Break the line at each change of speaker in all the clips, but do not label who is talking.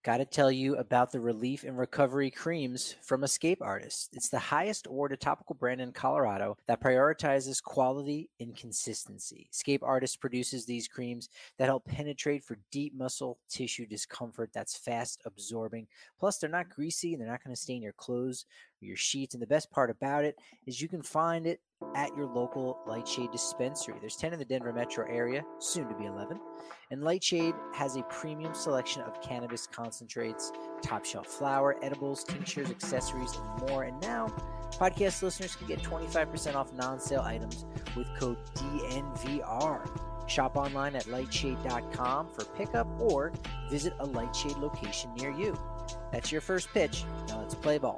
Got to tell you about the relief and recovery creams from Escape Artist. It's the highest awarded topical brand in Colorado that prioritizes quality and consistency. Escape Artist produces these creams that help penetrate for deep muscle tissue discomfort that's fast absorbing. Plus, they're not greasy and they're not going to stain your clothes or your sheets. And the best part about it is you can find it at your local Lightshade dispensary. There's 10 in the Denver metro area, soon to be 11. And Lightshade has a premium selection of cannabis concentrates, top shelf flower, edibles, tinctures, accessories, and more. And now, podcast listeners can get 25% off non-sale items with code DNVR. Shop online at lightshade.com for pickup or visit a Lightshade location near you. That's your first pitch. Now let's play ball.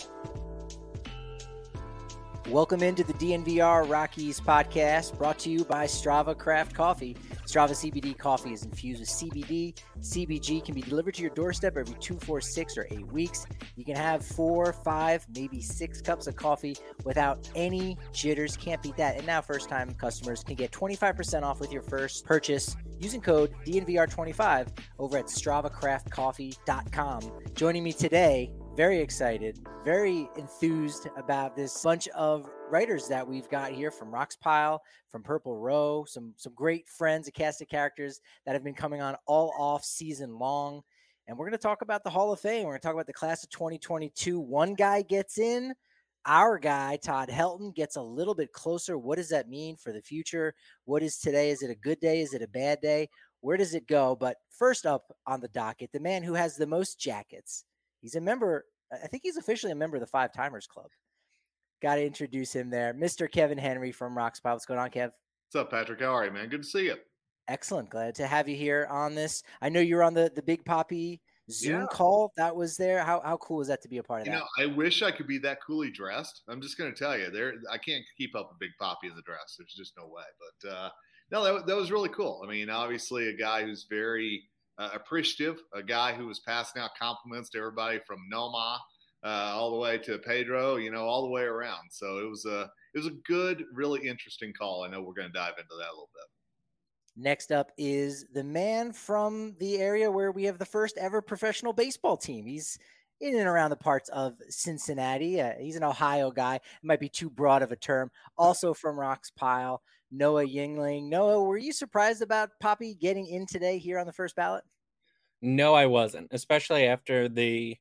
Welcome into the DNVR Rockies podcast, brought to you by Strava Craft Coffee. Strava CBD coffee is infused with CBD. CBG can be delivered to your doorstep every 2, 4, 6, or 8 weeks. You can have 4, 5, maybe 6 cups of coffee without any jitters. Can't beat that. And now first-time customers can get 25% off with your first purchase using code DNVR25 over at StravaCraftCoffee.com. Joining me today, very excited, very enthused about this bunch of writers that we've got here from Roxpile, from Purple Row, some great friends, a cast of characters that have been coming on all off season long. And we're going to talk about the Hall of Fame. We're going to talk about the class of 2022. One guy gets in. Our guy, Todd Helton, gets a little bit closer. What does that mean for the future? What is today? Is it a good day? Is it a bad day? Where does it go? But first up on the docket, the man who has the most jackets. He's a member. I think he's officially a member of the Five Timers Club. Got to introduce him there. Mr. Kevin Henry from Roxpile. What's going on, Kev?
What's up, Patrick? How are you, man? Good to see you.
Excellent. Glad to have you here on this. I know you're on the Big Poppy Zoom call that was there. How cool is that to be a part of that?
I wish I could be that coolly dressed. I'm just going to tell you, I can't keep up with Big Poppy in the dress. There's just no way. But no, that was really cool. I mean, obviously a guy who's very appreciative, a guy who was passing out compliments to everybody from Noma all the way to Pedro, all the way around. So it was a good, really interesting call. I know we're going to dive into that a little bit.
Next up is the man from the area where we have the first ever professional baseball team. He's in and around the parts of Cincinnati. He's an Ohio guy. It might be too broad of a term. Also from Roxpile, Noah Yingling. Noah, were you surprised about Poppy getting in today here on the first ballot?
No, I wasn't, especially after the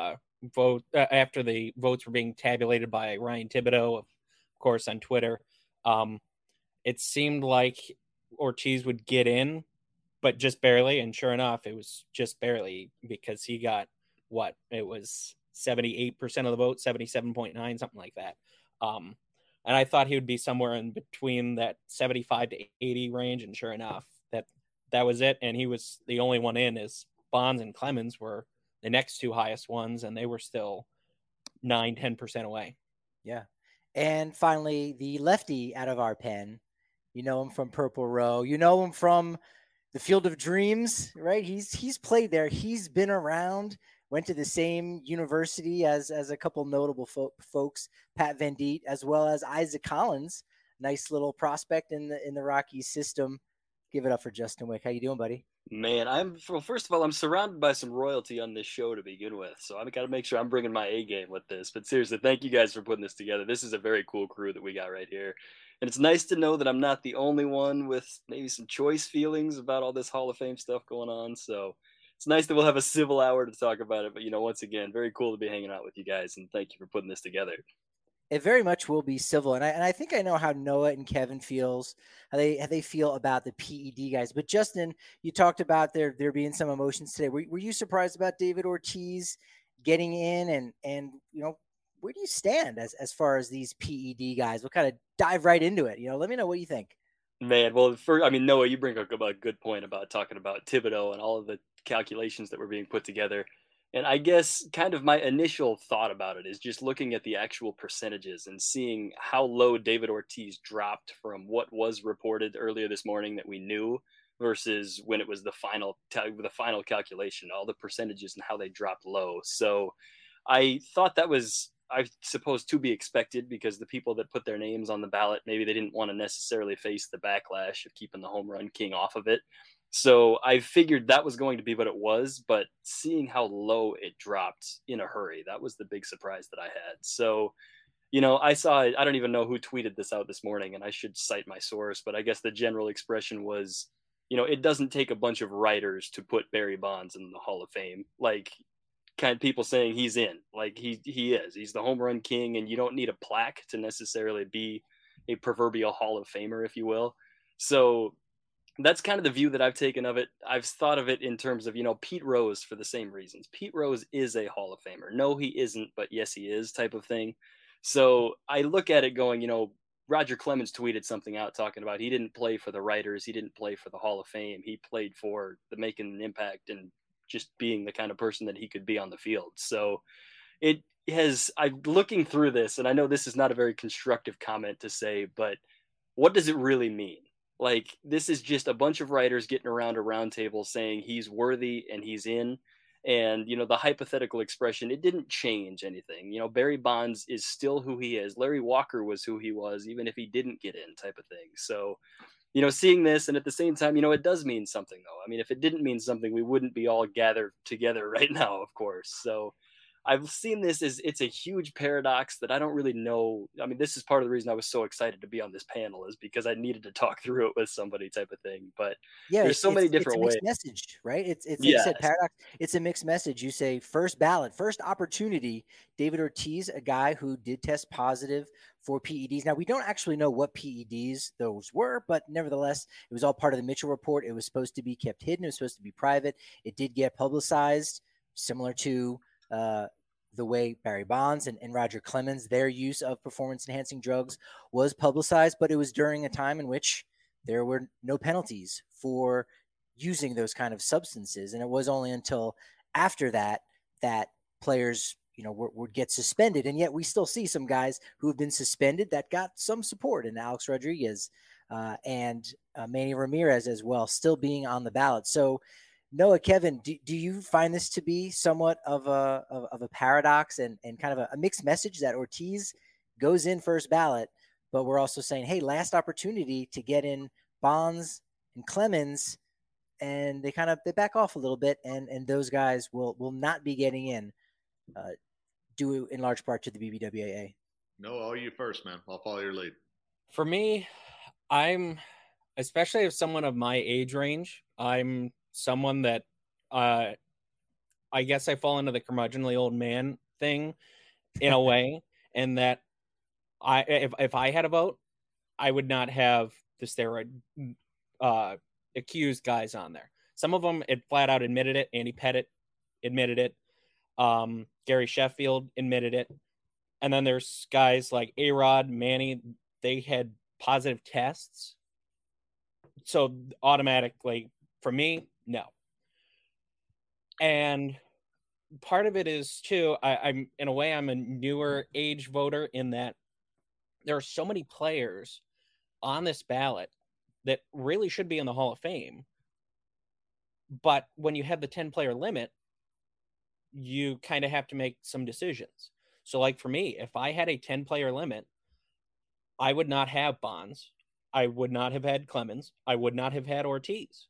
after the votes were being tabulated by Ryan Thibodeau, of course, on Twitter. It seemed like Ortiz would get in, but just barely. And sure enough, it was just barely, because he got it was 78% of the vote, 77.9, something like that. And I thought he would be somewhere in between that 75 to 80 range. And sure enough, that was it. And he was the only one in, as Bonds and Clemens were the next two highest ones, and they were still 9-10% away.
Yeah. And finally, the lefty out of our pen. You know him from Purple Row. You know him from the Field of Dreams, right? He's played there. He's been around, went to the same university as a couple notable folks, Pat Venditte, as well as Isaac Collins. Nice little prospect in the Rockies system. Give it up for Justin Wick. How you doing, buddy?
Man, first of all, I'm surrounded by some royalty on this show to begin with, so I've got to make sure I'm bringing my A game with this. But seriously, thank you guys for putting this together. This is a very cool crew that we got right here. And it's nice to know that I'm not the only one with maybe some choice feelings about all this Hall of Fame stuff going on. So it's nice that we'll have a civil hour to talk about it. But, once again, very cool to be hanging out with you guys. And thank you for putting this together.
It very much will be civil. And I think I know how Noah and Kevin feels, how they feel about the PED guys. But Justin, you talked about there being some emotions today. Were you surprised about David Ortiz getting in? And where do you stand as far as these PED guys? We'll kind of dive right into it. Let me know what you think.
Man, well, Noah, you bring up a good point about talking about Thibodeau and all of the calculations that were being put together. And I guess kind of my initial thought about it is just looking at the actual percentages and seeing how low David Ortiz dropped from what was reported earlier this morning that we knew versus when it was the final calculation, all the percentages and how they dropped low. So I thought that was, I suppose, to be expected, because the people that put their names on the ballot, maybe they didn't want to necessarily face the backlash of keeping the home run king off of it. So I figured that was going to be what it was, but seeing how low it dropped in a hurry, that was the big surprise that I had. So, I saw, I don't even know who tweeted this out this morning, and I should cite my source, but I guess the general expression was, it doesn't take a bunch of writers to put Barry Bonds in the Hall of Fame. Like, kind of people saying he's in, like he is. He's the home run king, and you don't need a plaque to necessarily be a proverbial Hall of Famer, if you will. So that's kind of the view that I've taken of it. I've thought of it in terms of, Pete Rose for the same reasons. Pete Rose is a Hall of Famer. No, he isn't, but yes, he is type of thing. So I look at it going, Roger Clemens tweeted something out talking about he didn't play for the writers. He didn't play for the Hall of Fame. He played for the making an impact and just being the kind of person that he could be on the field. So I'm looking through this, and I know this is not a very constructive comment to say, but what does it really mean? Like, this is just a bunch of writers getting around a round table saying he's worthy and he's in. And, the hypothetical expression, it didn't change anything. Barry Bonds is still who he is. Larry Walker was who he was, even if he didn't get in type of thing. So, seeing this, and at the same time, it does mean something, though. I mean, if it didn't mean something, we wouldn't be all gathered together right now, of course. So I've seen this as it's a huge paradox that I don't really know. I mean, this is part of the reason I was so excited to be on this panel, is because I needed to talk through it with somebody type of thing. But
yeah,
there's so many different ways.
It's a mixed message, right? It's like you said, paradox. It's a mixed message. You say first ballot, first opportunity. David Ortiz, a guy who did test positive for PEDs. Now, we don't actually know what PEDs those were, but nevertheless, it was all part of the Mitchell report. It was supposed to be kept hidden. It was supposed to be private. It did get publicized, similar to the way Barry Bonds and Roger Clemens, their use of performance-enhancing drugs was publicized, but it was during a time in which there were no penalties for using those kind of substances. And it was only until after that players, would get suspended. And yet we still see some guys who have been suspended that got some support, in Alex Rodriguez and Manny Ramirez as well, still being on the ballot. So, Noah, Kevin, do you find this to be somewhat of a paradox and kind of a mixed message that Ortiz goes in first ballot, but we're also saying, hey, last opportunity to get in Bonds and Clemens, and they back off a little bit, and those guys will not be getting in, due in large part to the BBWAA.
No, you first, man. I'll follow your lead.
For me, especially as someone of my age range, I'm someone that I guess I fall into the curmudgeonly old man thing in a way, and that if I had a vote, I would not have the steroid accused guys on there. Some of them it flat out admitted it. Andy Pettitte admitted it. Gary Sheffield admitted it. And then there's guys like A-Rod, Manny, they had positive tests. So automatically, for me, no. And part of it is too, I'm in a way, I'm a newer age voter in that there are so many players on this ballot that really should be in the Hall of Fame. But when you have the 10-player limit, you kind of have to make some decisions. So like for me, if I had a 10-player limit, I would not have Bonds. I would not have had Clemens. I would not have had Ortiz.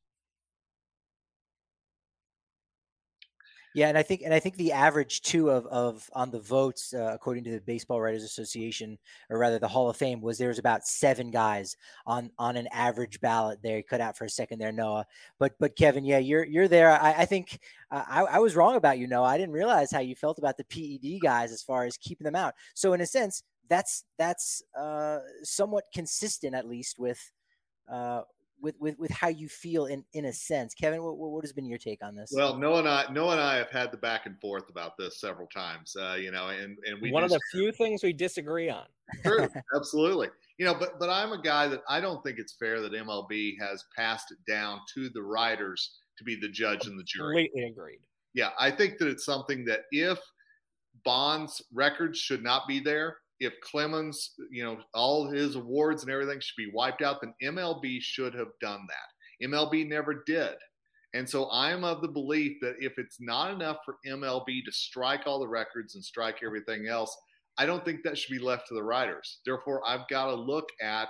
Yeah, and I think the average too of on the votes, according to the Baseball Writers Association, or rather the Hall of Fame, was there was about 7 guys on an average ballot there. You cut out for a second there, Noah. But Kevin, yeah, you're there. I think I was wrong about you, Noah. I didn't realize how you felt about the PED guys as far as keeping them out. So in a sense, that's somewhat consistent, at least with how you feel in a sense. Kevin, what has been your take on this?
Well, Noah and I have had the back and forth about this several times, and we
one of the few things we disagree on.
True, absolutely. But I'm a guy that I don't think it's fair that MLB has passed it down to the writers to be the judge and the jury.
Completely agreed.
Yeah, I think that it's something that if Bonds' records should not be there, if Clemens, all his awards and everything should be wiped out, then MLB should have done that. MLB never did. And so I'm of the belief that if it's not enough for MLB to strike all the records and strike everything else, I don't think that should be left to the writers. Therefore, I've got to look at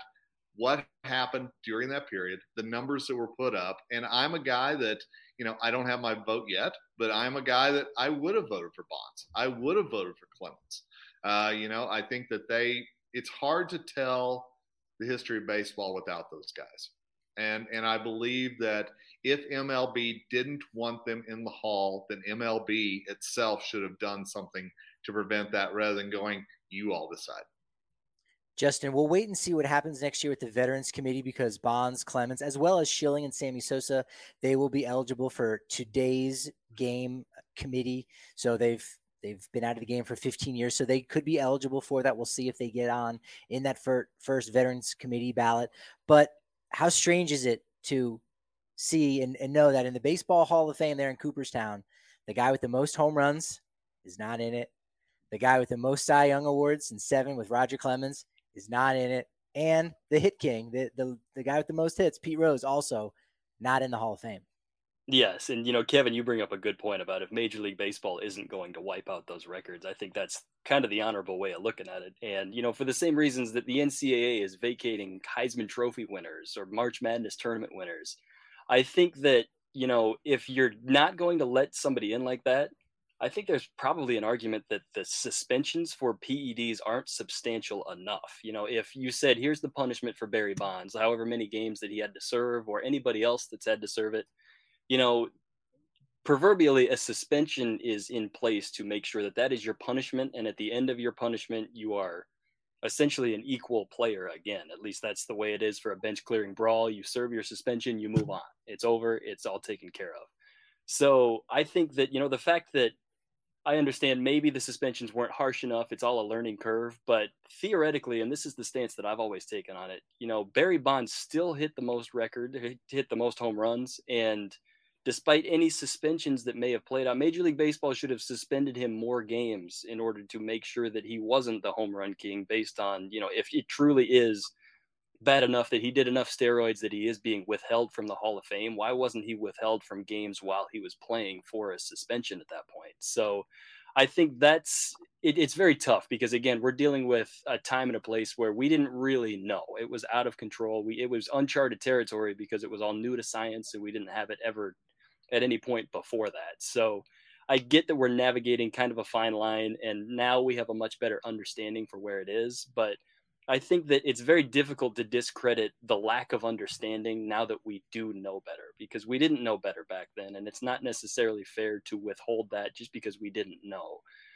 what happened during that period, the numbers that were put up. And I'm a guy that, I don't have my vote yet, but I'm a guy that I would have voted for Bonds. I would have voted for Clemens. I think that it's hard to tell the history of baseball without those guys. And I believe that if MLB didn't want them in the Hall, then MLB itself should have done something to prevent that rather than going, you all decide.
Justin, we'll wait and see what happens next year with the Veterans Committee, because Bonds, Clemens, as well as Schilling and Sammy Sosa, they will be eligible for today's game committee. So they've been out of the game for 15 years, so they could be eligible for that. We'll see if they get on in that first Veterans Committee ballot. But how strange is it to see and know that in the Baseball Hall of Fame there in Cooperstown, the guy with the most home runs is not in it. The guy with the most Cy Young Awards, and 7 with Roger Clemens, is not in it. And the hit king, the guy with the most hits, Pete Rose, also not in the Hall of Fame.
Yes, and Kevin, you bring up a good point about if Major League Baseball isn't going to wipe out those records. I think that's kind of the honorable way of looking at it. And for the same reasons that the NCAA is vacating Heisman Trophy winners or March Madness tournament winners, I think that if you're not going to let somebody in like that, I think there's probably an argument that the suspensions for PEDs aren't substantial enough. If you said, here's the punishment for Barry Bonds, however many games that he had to serve, or anybody else that's had to serve it, proverbially a suspension is in place to make sure that that is your punishment. And at the end of your punishment, you are essentially an equal player again. At least that's the way it is for a bench clearing brawl. You serve your suspension, you move on. It's over. It's all taken care of. So I think that, the fact that I understand maybe the suspensions weren't harsh enough, it's all a learning curve, but theoretically, and this is the stance that I've always taken on it, Barry Bonds still hit the most home runs. And despite any suspensions that may have played out, Major League Baseball should have suspended him more games in order to make sure that he wasn't the home run king, based on, if it truly is bad enough that he did enough steroids that he is being withheld from the Hall of Fame. Why wasn't he withheld from games while he was playing for a suspension at that point? So I think it's very tough, because again, we're dealing with a time and a place where we didn't really know. It was out of control. It was uncharted territory because it was all new to science, and we didn't have it ever at any point before that. So I get that we're navigating kind of a fine line, and now we have a much better understanding for where it is. But I think that it's very difficult to discredit the lack of understanding now that we do know better, because we didn't know better back then. And it's not necessarily fair to withhold that just because we didn't know.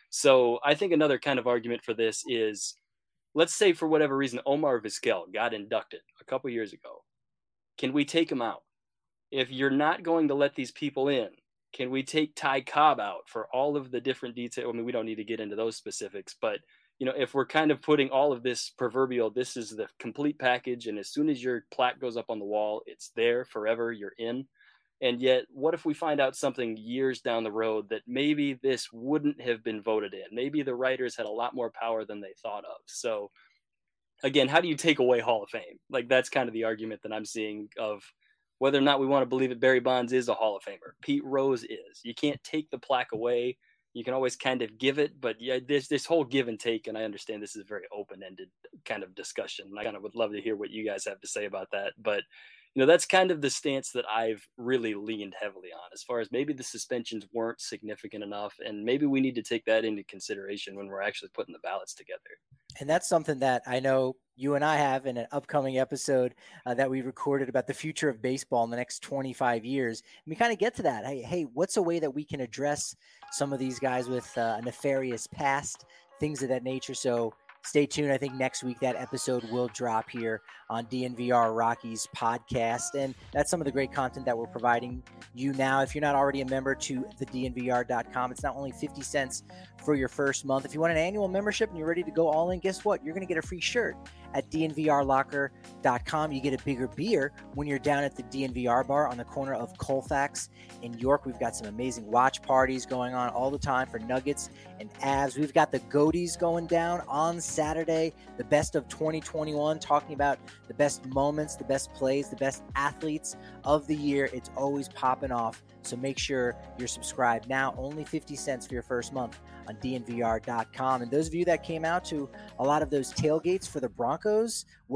So I think another kind of argument for this is, let's say for whatever reason, Omar Vizquel got inducted a couple years ago. Can we take him out? If you're not going to let these people in, can we take Ty Cobb out for all of the different details? I mean, we don't need to get into those specifics, but if we're kind of putting all of this proverbial, this is the complete package, and as soon as your plaque goes up on the wall, it's there forever, you're in. And yet, what if we find out something years down the road that maybe this wouldn't have been voted in? Maybe the writers had a lot more power than they thought of. So again, how do you take away Hall of Fame? Like, that's kind of the argument that I'm seeing of whether or not we want to believe that Barry Bonds is a Hall of Famer. Pete Rose is. You can't take the plaque away. You can always kind of give it, but yeah, this whole give and take, and I understand this is a very open-ended kind of discussion. I kind of would love to hear what you guys have to say about that. But, that's kind of the stance that I've really leaned heavily on, as far as maybe the suspensions weren't significant enough, and maybe we need to take that into consideration when we're actually putting the ballots together.
And that's something that I know you and I have in an upcoming episode that we recorded about the future of baseball in the next 25 years. And we kind of get to that. Hey, what's a way that we can address some of these guys with a nefarious past, things of that nature? So stay tuned. I think next week that episode will drop here on DNVR Rockies podcast. And that's some of the great content that we're providing you now. If you're not already a member to the DNVR.com, it's not only 50 cents for your first month. If you want an annual membership and you're ready to go all in, guess what? You're going to get a free shirt at DNVRlocker.com. You get a bigger beer when you're down at the DNVR bar on the corner of Colfax in York. We've got some amazing watch parties going on all the time for Nuggets and Avs. We've got the Goaties going down on Saturday, the best of 2021, talking about the best moments, the best plays, the best athletes of the year. It's always popping off. So make sure you're subscribed now. Only 50 cents for your first month on DNVR.com. And those of you that came out to a lot of those tailgates for the Broncos, well,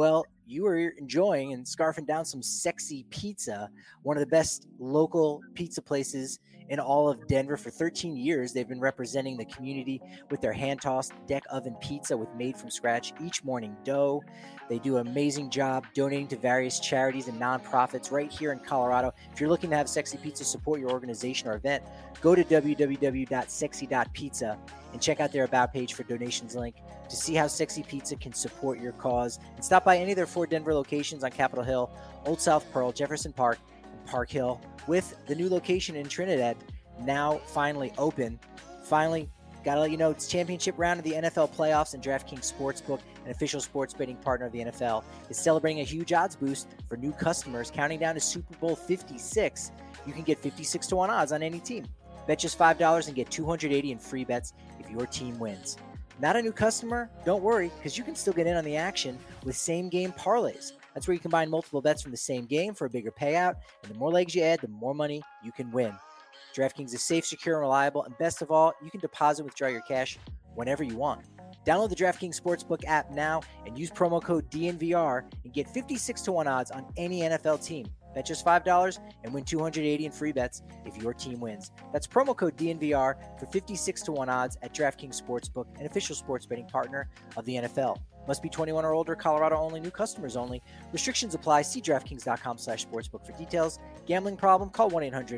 you are enjoying and scarfing down some sexy pizza, one of the best local pizza places in all of Denver. For 13 years, they've been representing the community with their hand-tossed deck oven pizza with made-from-scratch each morning dough. They do an amazing job donating to various charities and nonprofits right here in Colorado. If you're looking to have sexy pizza support your organization or event, go to www.sexy.pizza and check out their About page for donations link to see how Sexy Pizza can support your cause. And stop by any of their 4 Denver locations on Capitol Hill, Old South Pearl, Jefferson Park, and Park Hill, with the new location in Trinidad now finally open. Finally, got to let you know it's championship round of the NFL playoffs, and DraftKings Sportsbook, an official sports betting partner of the NFL, is celebrating a huge odds boost for new customers. Counting down to Super Bowl 56, you can get 56 to 1 odds on any team. Bet just $5 and get $280 in free bets if your team wins. Not a new customer? Don't worry, because you can still get in on the action with same-game parlays. That's where you combine multiple bets from the same game for a bigger payout, and the more legs you add, the more money you can win. DraftKings is safe, secure, and reliable, and best of all, you can deposit and withdraw your cash whenever you want. Download the DraftKings Sportsbook app now and use promo code DNVR and get 56 to 1 odds on any NFL team. Bet just $5 and win $280 in free bets if your team wins. That's promo code DNVR for 56 to 1 odds at DraftKings Sportsbook, an official sports betting partner of the NFL. Must be 21 or older, Colorado only, new customers only. Restrictions apply. See DraftKings.com/sportsbook for details. Gambling problem? Call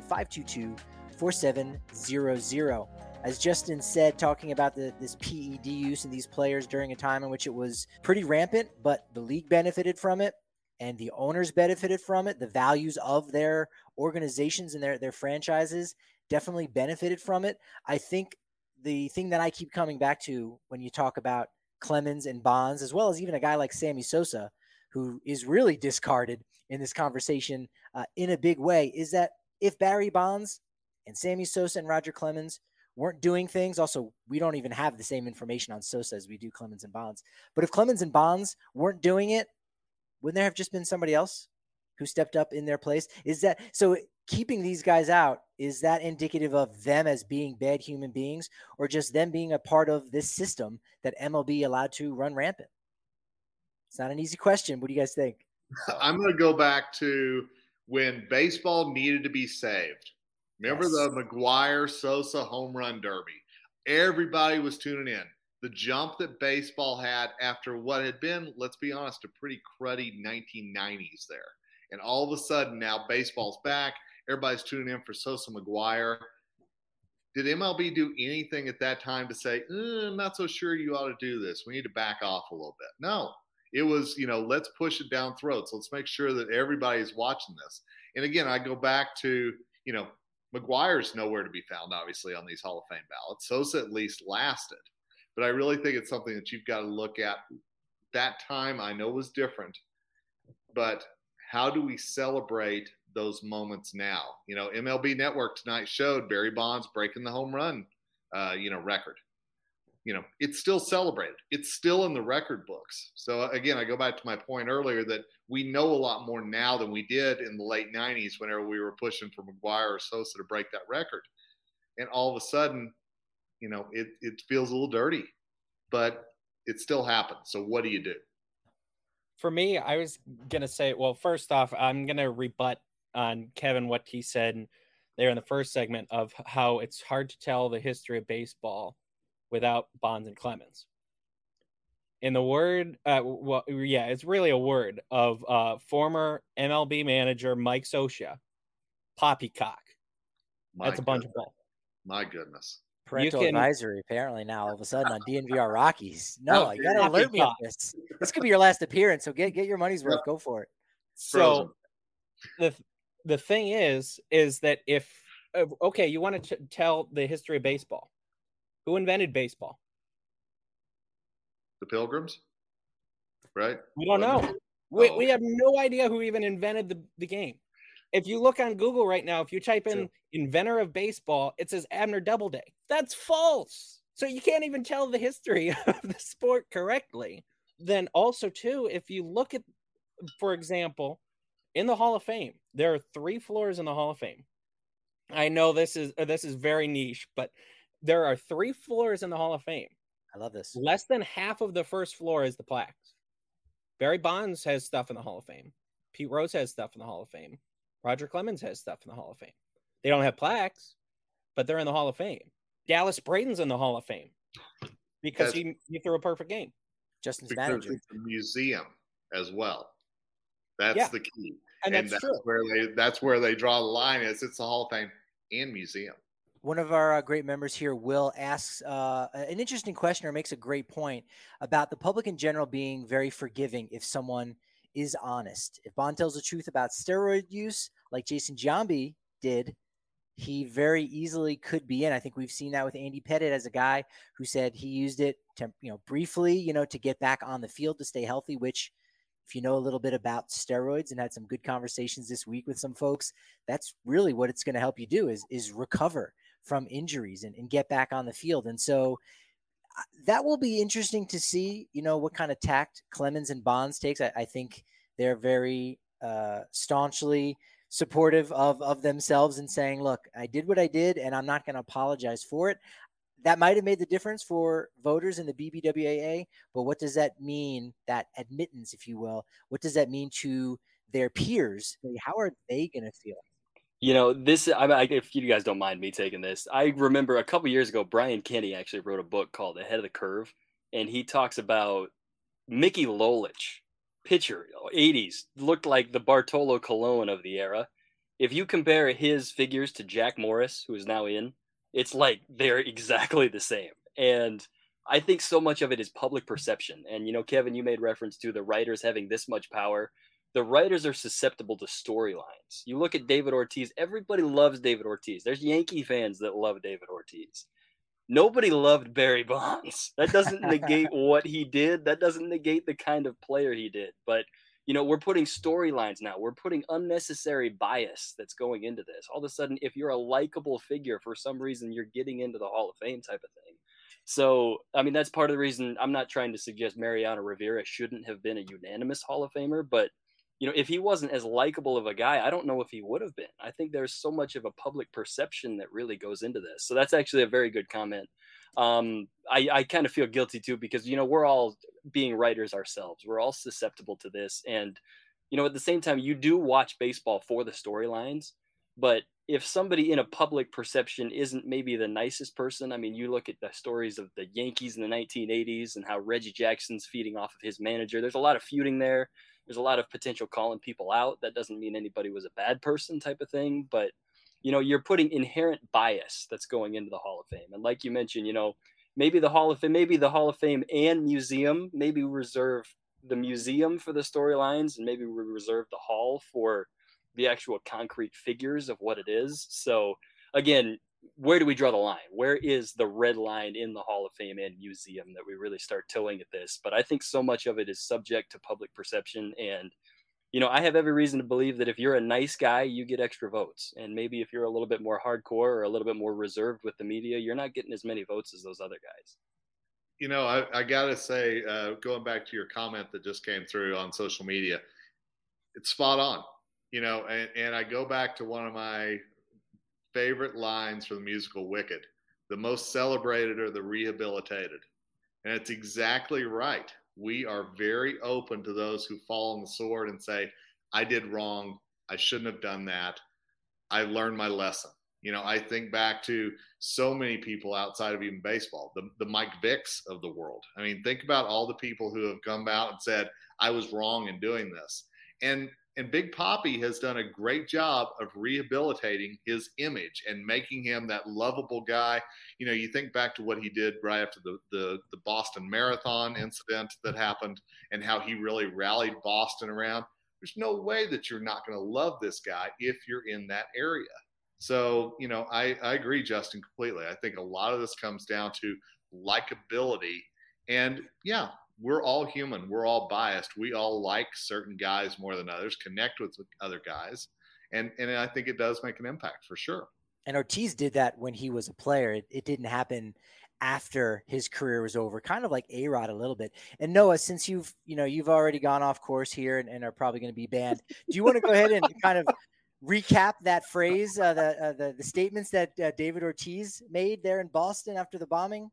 1-800-522-4700. As Justin said, talking about this PED use in these players during a time in which it was pretty rampant, but the league benefited from it and the owners benefited from it. The values of their organizations and their franchises definitely benefited from it. I think the thing that I keep coming back to when you talk about Clemens and Bonds, as well as even a guy like Sammy Sosa, who is really discarded in this conversation in a big way, is that if Barry Bonds and Sammy Sosa and Roger Clemens weren't doing things, also, we don't even have the same information on Sosa as we do Clemens and Bonds. But if Clemens and Bonds weren't doing it, wouldn't there have just been somebody else who stepped up in their place? Is that so? Keeping these guys out, is that indicative of them as being bad human beings, or just them being a part of this system that MLB allowed to run rampant? It's not an easy question. What do you guys think?
I'm going to go back to when baseball needed to be saved. Remember the McGwire Sosa home run derby? Everybody was tuning in. The jump that baseball had after what had been, let's be honest, a pretty cruddy 1990s there. And all of a sudden now baseball's back. Everybody's tuning in for Sosa McGwire. Did MLB do anything at that time to say, I'm not so sure you ought to do this. We need to back off a little bit. No, it was, let's push it down throats. Let's make sure that everybody's watching this. And again, I go back to, McGwire's nowhere to be found, obviously, on these Hall of Fame ballots. Sosa at least lasted. But I really think it's something that you've got to look at. That time I know was different, but how do we celebrate those moments now? MLB Network tonight showed Barry Bonds breaking the home run, record. It's still celebrated. It's still in the record books. So again, I go back to my point earlier that we know a lot more now than we did in the late 90s whenever we were pushing for McGwire or Sosa to break that record. And all of a sudden, it feels a little dirty, but it still happens. So what do you do?
For me, I was going to say, well, first off, I'm going to rebut on Kevin what he said there in the first segment of how it's hard to tell the history of baseball without Bonds and Clemens. In the word, it's really a word of former MLB manager Mike Scioscia, poppycock. That's a bunch of bull.
My goodness.
Parental advisory, apparently, now all of a sudden on DNVR Rockies. No, you got to alert me on this. This could be your last appearance, so get your money's worth. Go for it.
So the thing is that if, you want to tell the history of baseball. Who invented baseball?
The Pilgrims, right?
We don't know. We have no idea who even invented the game. If you look on Google right now, if you type in inventor of baseball, it says Abner Doubleday. That's false. So you can't even tell the history of the sport correctly. Then also, too, if you look at, for example, in the Hall of Fame, there are 3 floors in the Hall of Fame. I know this is very niche, but there are 3 floors in the Hall of Fame.
I love this.
Less than half of the first floor is the plaques. Barry Bonds has stuff in the Hall of Fame. Pete Rose has stuff in the Hall of Fame. Roger Clemens has stuff in the Hall of Fame. They don't have plaques, but they're in the Hall of Fame. Dallas Braden's in the Hall of Fame because he threw a perfect game.
Justin's manager.
It's a museum as well. That's the key.
And that's true.
That's where they draw the line. It's the Hall of Fame and museum.
One of our great members here, Will, asks an interesting question or makes a great point about the public in general being very forgiving if someone is honest. If Bond tells the truth about steroid use, like Jason Giambi did, he very easily could be in. I think we've seen that with Andy Pettitte as a guy who said he used it to, briefly, to get back on the field to stay healthy, which if you know a little bit about steroids and had some good conversations this week with some folks, that's really what it's going to help you do is recover from injuries and get back on the field. And so that will be interesting to see, what kind of tact Clemens and Bonds takes. I think they're very staunchly supportive of themselves and saying, look, I did what I did and I'm not going to apologize for it. That might have made the difference for voters in the BBWAA, but what does that mean, that admittance, if you will? What does that mean to their peers? How are they going to feel?
If you guys don't mind me taking this, I remember a couple years ago, Brian Kenny actually wrote a book called Ahead of the Curve, and he talks about Mickey Lolich, pitcher, 80s, looked like the Bartolo Colon of the era. If you compare his figures to Jack Morris, who is now in, it's like they're exactly the same. And I think so much of it is public perception. And, Kevin, you made reference to the writers having this much power. The writers are susceptible to storylines. You look at David Ortiz, everybody loves David Ortiz. There's Yankee fans that love David Ortiz. Nobody loved Barry Bonds. That doesn't negate what he did. That doesn't negate the kind of player he did. But, we're putting storylines now. We're putting unnecessary bias that's going into this. All of a sudden, if you're a likable figure, for some reason, you're getting into the Hall of Fame type of thing. So, that's part of the reason I'm not trying to suggest Mariano Rivera shouldn't have been a unanimous Hall of Famer, but if he wasn't as likable of a guy, I don't know if he would have been. I think there's so much of a public perception that really goes into this. So that's actually a very good comment. I kind of feel guilty too, because, we're all being writers ourselves. We're all susceptible to this. And, at the same time, you do watch baseball for the storylines, but if somebody in a public perception isn't maybe the nicest person, you look at the stories of the Yankees in the 1980s and how Reggie Jackson's feeding off of his manager. There's a lot of feuding there. There's a lot of potential calling people out. That doesn't mean anybody was a bad person type of thing, but you're putting inherent bias that's going into the Hall of Fame. And like you mentioned, maybe the Hall of Fame and museum, maybe we reserve the museum for the storylines and maybe we reserve the Hall for the actual concrete figures of what it is. So again, where do we draw the line? Where is the red line in the Hall of Fame and museum that we really start towing at this? But I think so much of it is subject to public perception. And, I have every reason to believe that if you're a nice guy, you get extra votes. And maybe if you're a little bit more hardcore or a little bit more reserved with the media, you're not getting as many votes as those other guys.
I got to say, going back to your comment that just came through on social media, it's spot on, and I go back to one of my favorite lines from the musical Wicked: the most celebrated are the rehabilitated. And it's exactly right. We are very open to those who fall on the sword and say, I did wrong. I shouldn't have done that. I learned my lesson. I think back to so many people outside of even baseball, the Mike Vicks of the world. Think about all the people who have come out and said, I was wrong in doing this. And Big Papi has done a great job of rehabilitating his image and making him that lovable guy. You think back to what he did right after the Boston Marathon incident that happened and how he really rallied Boston around. There's no way that you're not going to love this guy if you're in that area. So, I agree, Justin, completely. I think a lot of this comes down to likability. And yeah, we're all human. We're all biased. We all like certain guys more than others, connect with other guys. And I think it does make an impact for sure.
And Ortiz did that when he was a player. It didn't happen after his career was over, kind of like A-Rod a little bit. And Noah, since you've already gone off course here and are probably going to be banned, do you want to go ahead and kind of recap that phrase, the statements that David Ortiz made there in Boston after the bombing?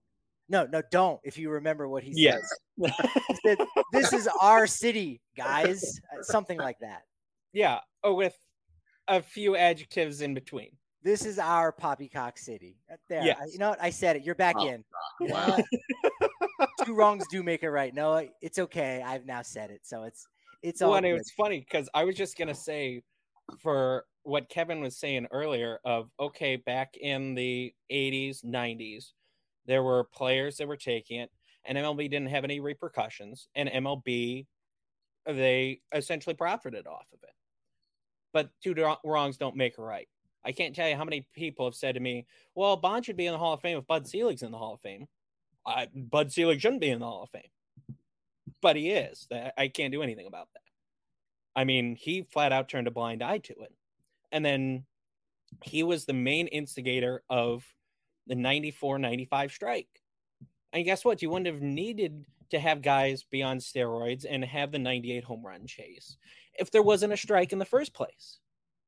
No, don't. If you remember what he
Yes.
said. He said, "This is our city, guys." Something like that.
Yeah, with a few adjectives in between.
This is our Poppycock City. There.
Yes.
You know what? I said it. You're back in.
Wow.
Two wrongs do make it right. No, it's okay. I've now said it. So it's all
Well,
good.
it's funny because I was just going to say, for what Kevin was saying earlier of, okay, back in the 80s, 90s, there were players that were taking it, and MLB didn't have any repercussions, and MLB, they essentially profited off of it. But two wrongs don't make a right. I can't tell you how many people have said to me, well, Bond should be in the Hall of Fame if Bud Selig's in the Hall of Fame. Bud Selig shouldn't be in the Hall of Fame. But he is. I can't do anything about that. I mean, he flat out turned a blind eye to it. And then he was the main instigator of the 94-95 strike. And guess what? You wouldn't have needed to have guys be on steroids and have the 98 home run chase if there wasn't a strike in the first place.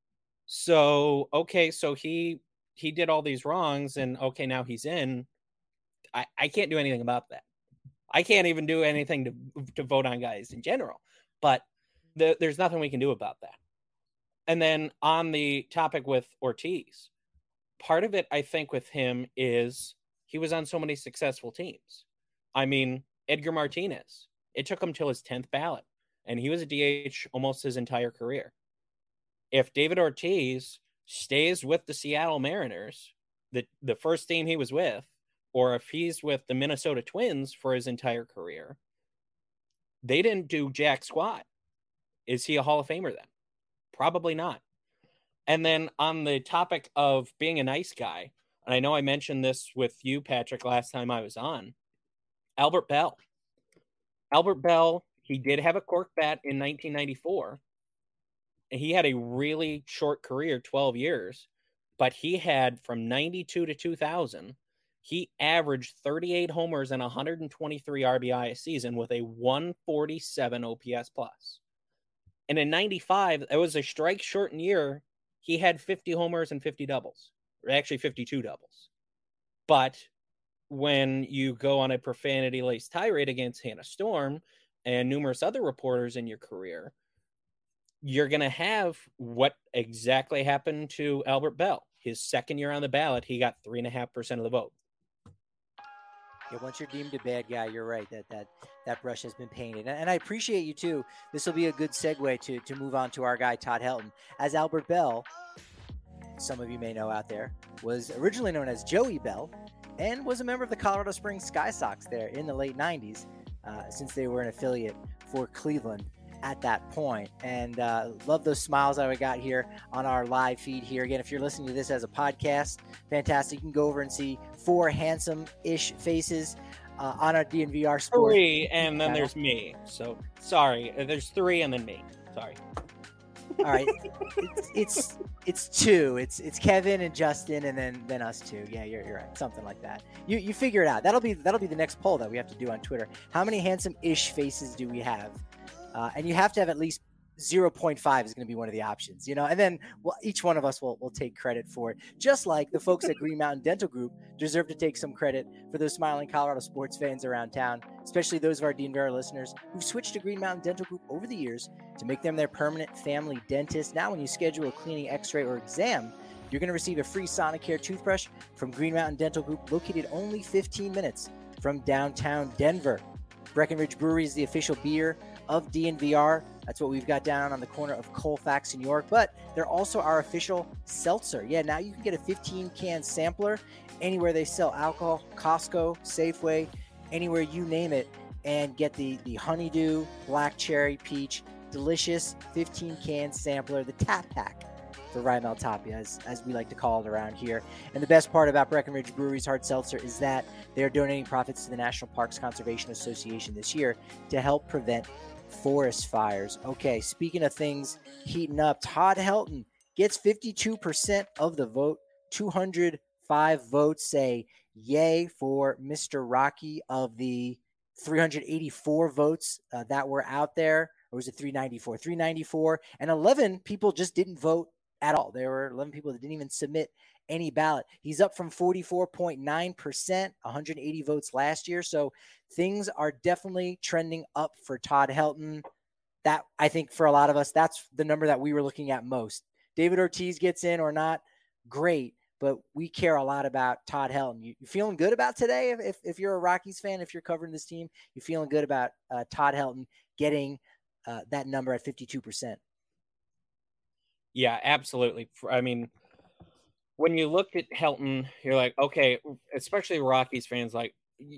So, okay, so he did all these wrongs, and okay, now he's in. I can't do anything about that. I can't even do anything to vote on guys in general, but there's nothing we can do about that. And then on the topic with Ortiz, part of it, I think, with him is he was on so many successful teams. I mean, Edgar Martinez, it took him till his 10th ballot, and he was a DH almost his entire career. If David Ortiz stays with the Seattle Mariners, the first team he was with, or if he's with the Minnesota Twins for his entire career, they didn't do jack squat. Is he a Hall of Famer then? Probably not. And then on the topic of being a nice guy, and I know I mentioned this with you, Patrick, last time I was on, Albert Bell. Albert Bell, he did have a cork bat in 1994. And he had a really short career, 12 years, but he had from 92 to 2000, he averaged 38 homers and 123 RBI a season with a 147 OPS plus. And in 95, it was a strike shortened year. He had 50 homers and 50 doubles, or actually 52 doubles. But when you go on a profanity-laced tirade against Hannah Storm and numerous other reporters in your career, you're going to have what exactly happened to Albert Bell. His second year on the ballot, he got 3.5% of the vote.
Yeah, once you're deemed a bad guy, you're right. That brush has been painted. And I appreciate you, too. This will be a good segue to move on to our guy, Todd Helton. As Albert Bell, some of you may know out there, was originally known as Joey Bell and was a member of the Colorado Springs Sky Sox there in the late 90s, since they were an affiliate for Cleveland at that point. And love those smiles that we got here on our live feed here. Again, if you're listening to this as a podcast, fantastic. You can go over and see 4 handsome-ish faces on our DNVR Sports.
3, and then there's me. So, sorry. There's 3 and then me. Sorry.
All right. It's 2. It's Kevin and Justin and then us 2. Yeah, you're right. Something like that. You figure it out. That'll be the next poll that we have to do on Twitter. How many handsome-ish faces do we have? And you have to have at least 0.5 is going to be one of the options, and then each one of us will take credit for it. Just like the folks at Green Mountain Dental Group deserve to take some credit for those smiling Colorado sports fans around town, especially those of our DNVR listeners who've switched to Green Mountain Dental Group over the years to make them their permanent family dentist. Now, when you schedule a cleaning, x-ray, or exam, you're going to receive a free Sonicare toothbrush from Green Mountain Dental Group, located only 15 minutes from downtown Denver. Breckenridge Brewery is the official beer of DNVR. That's what we've got down on the corner of Colfax and York, but they're also our official seltzer. Yeah, now you can get a 15-can sampler anywhere they sell alcohol, Costco, Safeway, anywhere you name it, and get the honeydew, black cherry, peach, delicious 15-can sampler, the tap pack for Rymel Tapia, as we like to call it around here. And the best part about Breckenridge Brewery's hard seltzer is that they're donating profits to the National Parks Conservation Association this year to help prevent forest fires. Okay, speaking of things heating up, Todd Helton gets 52% of the vote. 205 votes say yay for Mr. Rocky. Of the 384 votes that were out there, or was it 394? 394, and 11 people just didn't vote at all. There were 11 people that didn't even submit any ballot. He's up from 44.9%, 180 votes last year. So things are definitely trending up for Todd Helton. That, I think, for a lot of us, that's the number that we were looking at most. David Ortiz gets in or not, great, but we care a lot about Todd Helton. You feeling good about today? If you're a Rockies fan, if you're covering this team, you feeling good about Todd Helton getting that number at 52%?
Yeah, absolutely. I mean, when you look at Helton, you're like, okay, especially Rockies fans, like,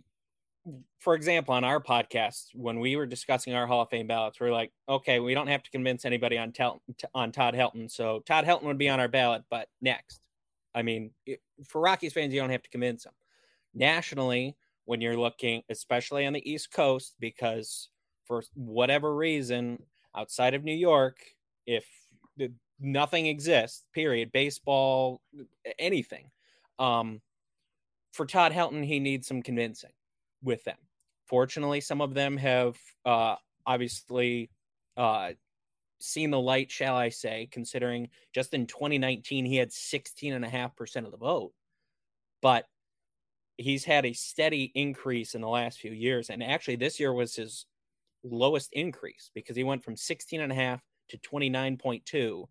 for example, on our podcast, when we were discussing our Hall of Fame ballots, we're like, okay, we don't have to convince anybody on Todd Helton. So Todd Helton would be on our ballot, but next. I mean, for Rockies fans, you don't have to convince them. Nationally, when you're looking, especially on the East Coast, because for whatever reason, outside of New York, if nothing exists, period, baseball, anything, for Todd Helton, he needs some convincing with them. Fortunately, some of them have obviously seen the light, shall I say, considering just in 2019, he had 16.5% of the vote. But he's had a steady increase in the last few years. And actually, this year was his lowest increase because he went from 16.5 to 29.2 to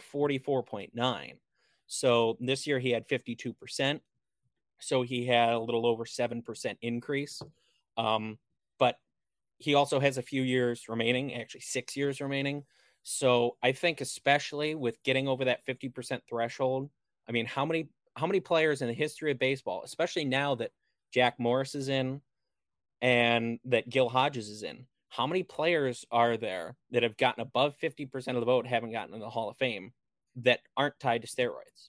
44.9. So this year he had 52%. So he had a little over 7% increase. But he also has a few years remaining, actually 6 years remaining. So I think especially with getting over that 50% threshold, I mean, how many players in the history of baseball, especially now that Jack Morris is in and that Gil Hodges is in, how many players are there that have gotten above 50% of the vote, haven't gotten in the Hall of Fame, that aren't tied to steroids?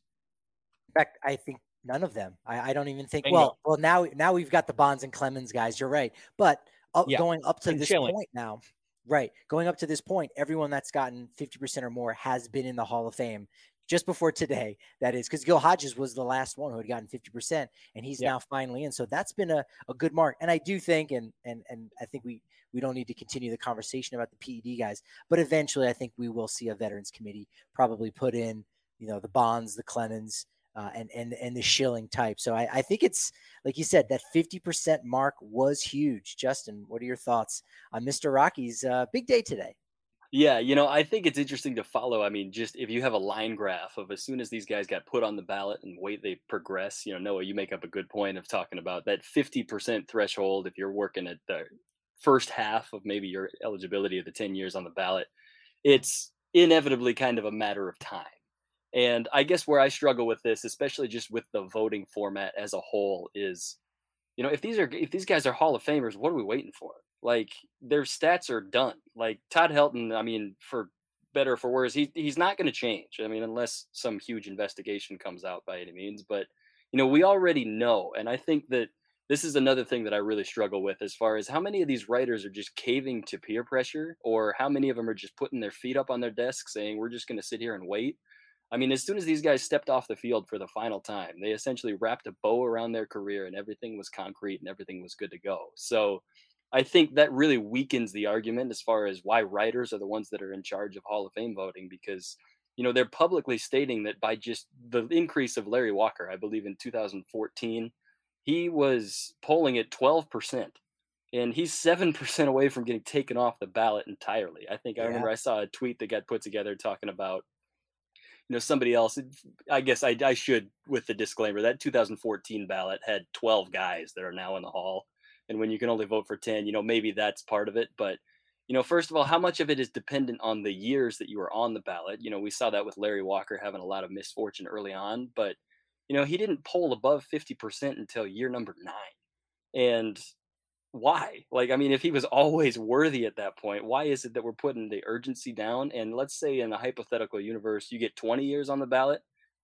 In fact, I think none of them. I don't even think.
Bingo.
Well, now we've got the Bonds and Clemens guys. You're right, but going up to this point now, right? Going up to this point, everyone that's gotten 50% or more has been in the Hall of Fame. Just before today, that is, because Gil Hodges was the last one who had gotten 50%, and he's now finally in. So that's been a good mark. And I do think, and I think we don't need to continue the conversation about the PED guys, but eventually I think we will see a Veterans Committee probably put in, the Bonds, the Clemens, and the Schilling type. So I think it's, like you said, that 50% mark was huge. Justin, what are your thoughts on Mr. Rocky's big day today?
Yeah, I think it's interesting to follow. I mean, just if you have a line graph of as soon as these guys got put on the ballot and way they progress, Noah, you make up a good point of talking about that 50% threshold. If you're working at the first half of maybe your eligibility of the 10 years on the ballot, it's inevitably kind of a matter of time. And I guess where I struggle with this, especially just with the voting format as a whole, is, if these guys are Hall of Famers, what are we waiting for? Like, their stats are done. Like Todd Helton, I mean, for better or for worse, he's not going to change. I mean, unless some huge investigation comes out by any means. But we already know, and I think that this is another thing that I really struggle with, as far as how many of these writers are just caving to peer pressure, or how many of them are just putting their feet up on their desk saying, we're just going to sit here and wait. I mean, as soon as these guys stepped off the field for the final time, they essentially wrapped a bow around their career and everything was concrete and everything was good to go. So I think that really weakens the argument as far as why writers are the ones that are in charge of Hall of Fame voting, because, they're publicly stating that by just the increase of Larry Walker, I believe in 2014, he was polling at 12%. And he's 7% away from getting taken off the ballot entirely. I think I remember I saw a tweet that got put together talking about, somebody else. I guess I should, with the disclaimer, that 2014 ballot had 12 guys that are now in the Hall. And when you can only vote for 10, maybe that's part of it. But, first of all, how much of it is dependent on the years that you were on the ballot? We saw that with Larry Walker having a lot of misfortune early on. But, he didn't poll above 50% until year number 9. And why? Like, I mean, if he was always worthy at that point, why is it that we're putting the urgency down? And let's say in a hypothetical universe, you get 20 years on the ballot.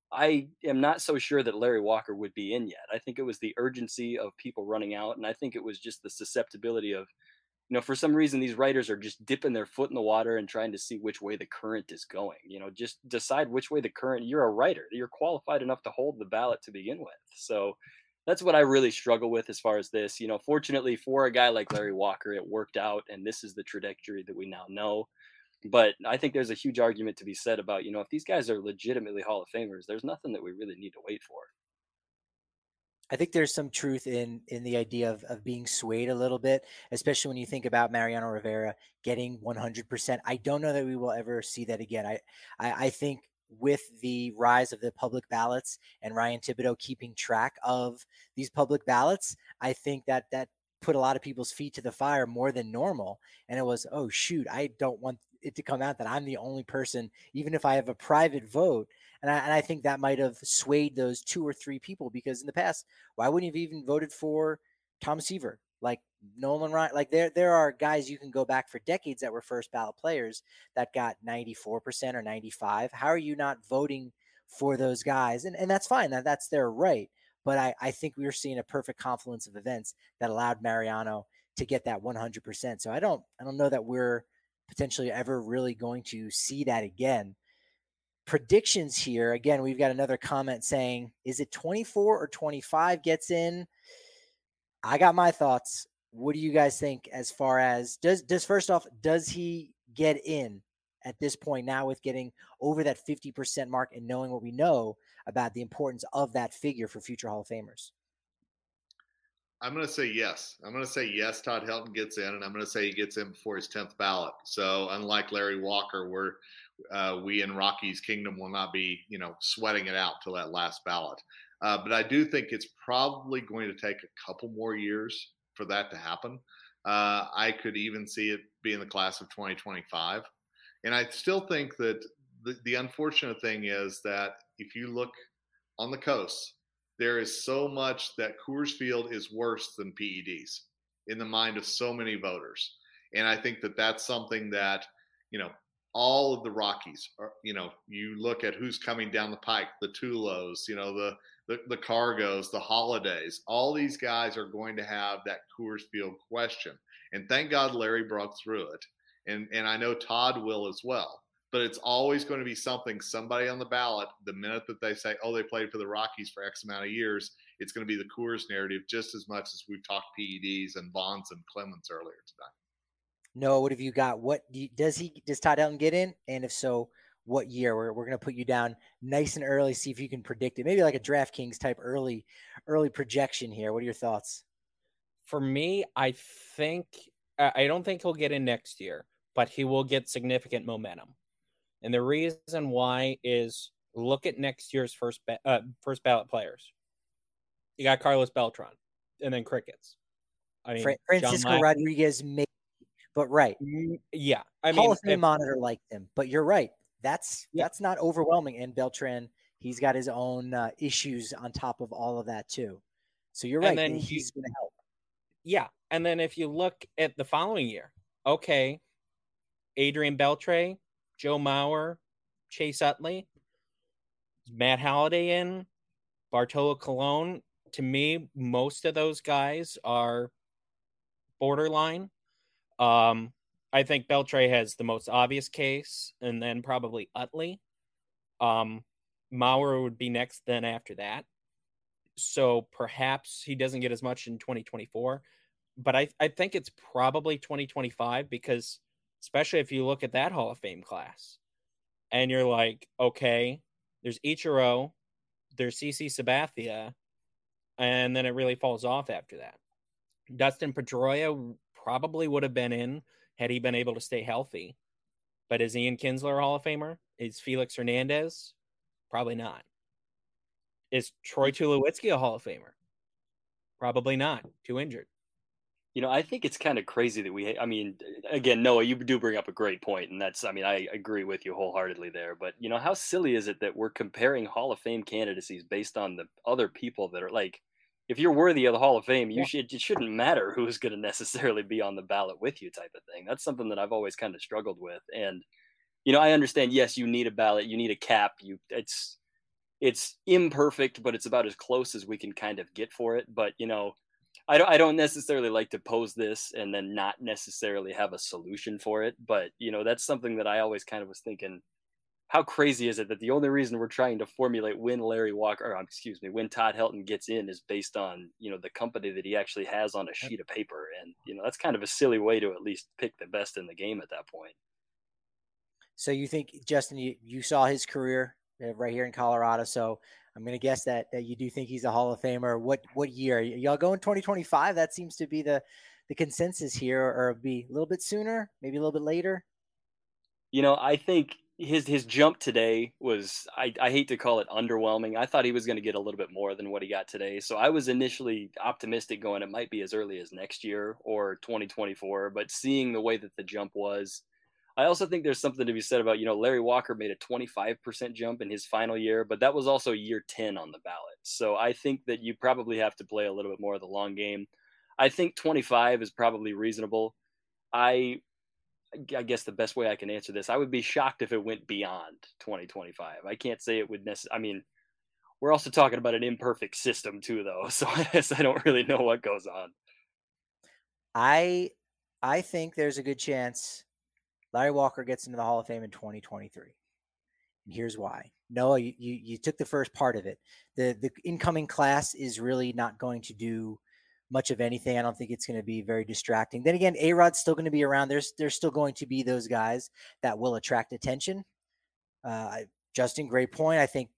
I am not so sure that Larry Walker would be in yet. I think it was the urgency of people running out. And I think it was just the susceptibility of, for some reason, these writers are just dipping their foot in the water and trying to see which way the current is going. Just decide which way the current, you're a writer. You're qualified enough to hold the ballot to begin with. So that's what I really struggle with as far as this. Fortunately for a guy like Larry Walker, it worked out, and this is the trajectory that we now know. But I think there's a huge argument to be said about, if these guys are legitimately Hall of Famers, there's nothing that we really need to wait for.
I think there's some truth in the idea of being swayed a little bit, especially when you think about Mariano Rivera getting 100%. I don't know that we will ever see that again. I think with the rise of the public ballots and Ryan Thibodeau keeping track of these public ballots, I think that put a lot of people's feet to the fire more than normal. And it was, oh shoot, I don't want it to come out that I'm the only person, even if I have a private vote. And I think that might have swayed those 2 or 3 people, because in the past, why wouldn't you have even voted for Tom Seaver? Like Nolan Ryan, like there are guys you can go back for decades that were first ballot players that got 94% or 95. How are you not voting for those guys? And that's fine. That's their right. But I think we were seeing a perfect confluence of events that allowed Mariano to get that 100%. So I don't know that we're potentially ever really going to see that again. Predictions here. Again, we've got another comment saying, is it 24 or 25 gets in? I got my thoughts. What do you guys think as far as does he get in at this point now with getting over that 50% mark and knowing what we know about the importance of that figure for future Hall of Famers?
I'm going to say yes. I'm going to say yes, Todd Helton gets in, and I'm going to say he gets in before his 10th ballot. So unlike Larry Walker, we in Rocky's Kingdom will not be, sweating it out till that last ballot. But I do think it's probably going to take a couple more years for that to happen. I could even see it being the class of 2025. And I still think that the unfortunate thing is that if you look on the coast, there is so much that Coors Field is worse than PEDs in the mind of so many voters. And I think that that's something that, all of the Rockies are, you look at who's coming down the pike, the Tulos, the Cargos, the Holidays, all these guys are going to have that Coors Field question. And thank God Larry broke through it. And I know Todd will as well. But it's always going to be somebody on the ballot, the minute that they say, oh, they played for the Rockies for X amount of years, it's going to be the Coors narrative just as much as we've talked PEDs and Bonds and Clemens earlier today.
Noah, what have you got? Does Todd Helton get in? And if so, what year? We're going to put you down nice and early, see if you can predict it. Maybe like a DraftKings type early projection here. What are your thoughts?
For me, I don't think he'll get in next year, but he will get significant momentum. And the reason why is look at next year's first ballot players. You got Carlos Beltran, and then crickets. I mean,
Francisco Rodriguez, maybe, but right.
Yeah,
Hall of Fame monitor liked him, but you're right. That's not overwhelming. And Beltran, he's got his own issues on top of all of that too. So you're right. And he's going to help.
Yeah, and then if you look at the following year, okay, Adrian Beltre, Joe Mauer, Chase Utley, Matt Halliday in, Bartolo Colon. To me, most of those guys are borderline. I think Beltre has the most obvious case, and then probably Utley. Mauer would be next then after that. So perhaps he doesn't get as much in 2024. But I think it's probably 2025 because – especially if you look at that Hall of Fame class and you're like, okay, there's Ichiro, there's CC Sabathia, and then it really falls off after that. Dustin Pedroia probably would have been in had he been able to stay healthy. But is Ian Kinsler a Hall of Famer? Is Felix Hernandez? Probably not. Is Troy Tulowitzki a Hall of Famer? Probably not. Too injured.
I think it's kind of crazy that again, Noah, you do bring up a great point, and I agree with you wholeheartedly there. But, how silly is it that we're comparing Hall of Fame candidacies based on the other people that are like, if you're worthy of the Hall of Fame, it shouldn't matter who's going to necessarily be on the ballot with you type of thing. That's something that I've always kind of struggled with. And, I understand, yes, you need a ballot, you need a cap. It's imperfect, but it's about as close as we can kind of get for it. But, I don't necessarily like to pose this and then not necessarily have a solution for it. But, that's something that I always kind of was thinking, how crazy is it that the only reason we're trying to formulate when when Todd Helton gets in is based on, the company that he actually has on a sheet of paper. And, that's kind of a silly way to at least pick the best in the game at that point.
So you think, Justin, you saw his career right here in Colorado. So I'm going to guess that you do think he's a Hall of Famer. What year? Y'all going 2025? That seems to be the consensus here, or be a little bit sooner, maybe a little bit later.
I think his jump today was, I hate to call it underwhelming. I thought he was going to get a little bit more than what he got today. So I was initially optimistic going it might be as early as next year or 2024, but seeing the way that the jump was, I also think there's something to be said about, Larry Walker made a 25% jump in his final year, but that was also year 10 on the ballot. So I think that you probably have to play a little bit more of the long game. I think 25 is probably reasonable. I guess the best way I can answer this, I would be shocked if it went beyond 2025. I can't say it would necessarily. I mean, we're also talking about an imperfect system too, though. So I guess I don't really know what goes on.
I think there's a good chance Larry Walker gets into the Hall of Fame in 2023. And here's why. Noah, you took the first part of it. The incoming class is really not going to do much of anything. I don't think it's going to be very distracting. Then again, A-Rod's still going to be around. There's still going to be those guys that will attract attention. Justin, great point. I think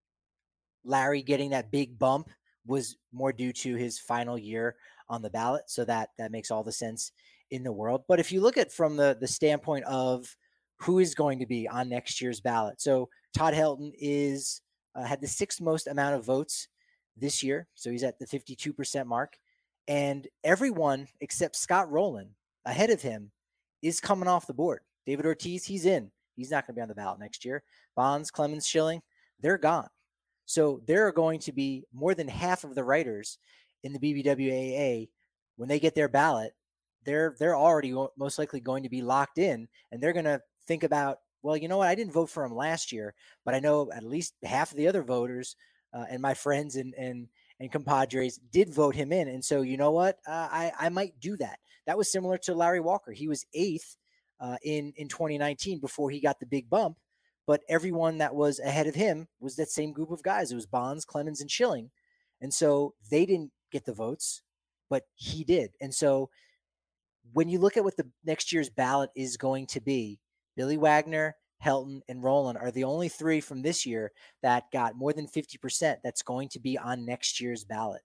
Larry getting that big bump was more due to his final year on the ballot. So that makes all the sense in the world. But if you look at from the standpoint of who is going to be on next year's ballot. So Todd Helton is had the sixth most amount of votes this year. So he's at the 52% mark. And everyone except Scott Rowland ahead of him is coming off the board. David Ortiz, he's in. He's not going to be on the ballot next year. Bonds, Clemens, Schilling, they're gone. So there are going to be more than half of the writers in the BBWAA when they get their ballot. They're already most likely going to be locked in, and they're going to think about, well, you know what? I didn't vote for him last year, but I know at least half of the other voters and my friends and compadres did vote him in. And so, you know what? I might do that. That was similar to Larry Walker. He was eighth in 2019 before he got the big bump. But everyone that was ahead of him was that same group of guys. It was Bonds, Clemens, and Schilling. And so they didn't get the votes, but he did. And so when you look at what the next year's ballot is going to be, Billy Wagner, Helton, and Rowland are the only three from this year that got more than 50% that's going to be on next year's ballot.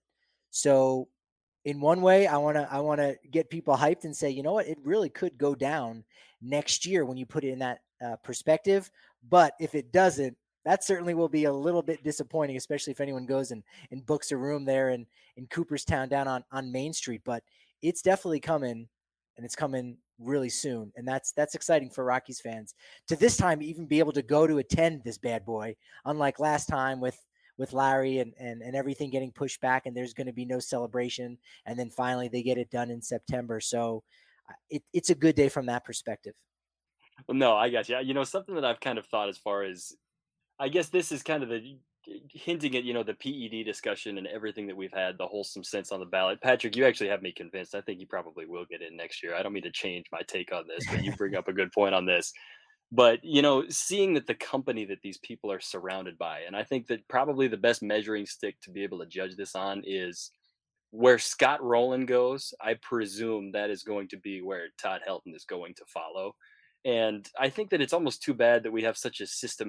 So in one way, I want to get people hyped and say, you know what, it really could go down next year when you put it in that perspective. But if it doesn't, that certainly will be a little bit disappointing, especially if anyone goes and books a room there in Cooperstown down on Main Street. But it's definitely coming, and it's coming really soon. And that's exciting for Rockies fans to this time even be able to go to attend this bad boy, unlike last time with Larry and everything getting pushed back, and there's going to be no celebration. And then finally they get it done in September. So it's a good day from that perspective.
Well, no, I got you. Something that I've kind of thought as far as, I guess this is kind of the hinting at, the PED discussion and everything that we've had, the wholesome sense on the ballot. Patrick, you actually have me convinced. I think you probably will get in next year. I don't mean to change my take on this, but you bring up a good point on this. But, seeing that the company that these people are surrounded by, and I think that probably the best measuring stick to be able to judge this on is where Scott Rowland goes. I presume that is going to be where Todd Helton is going to follow. And I think that it's almost too bad that we have such a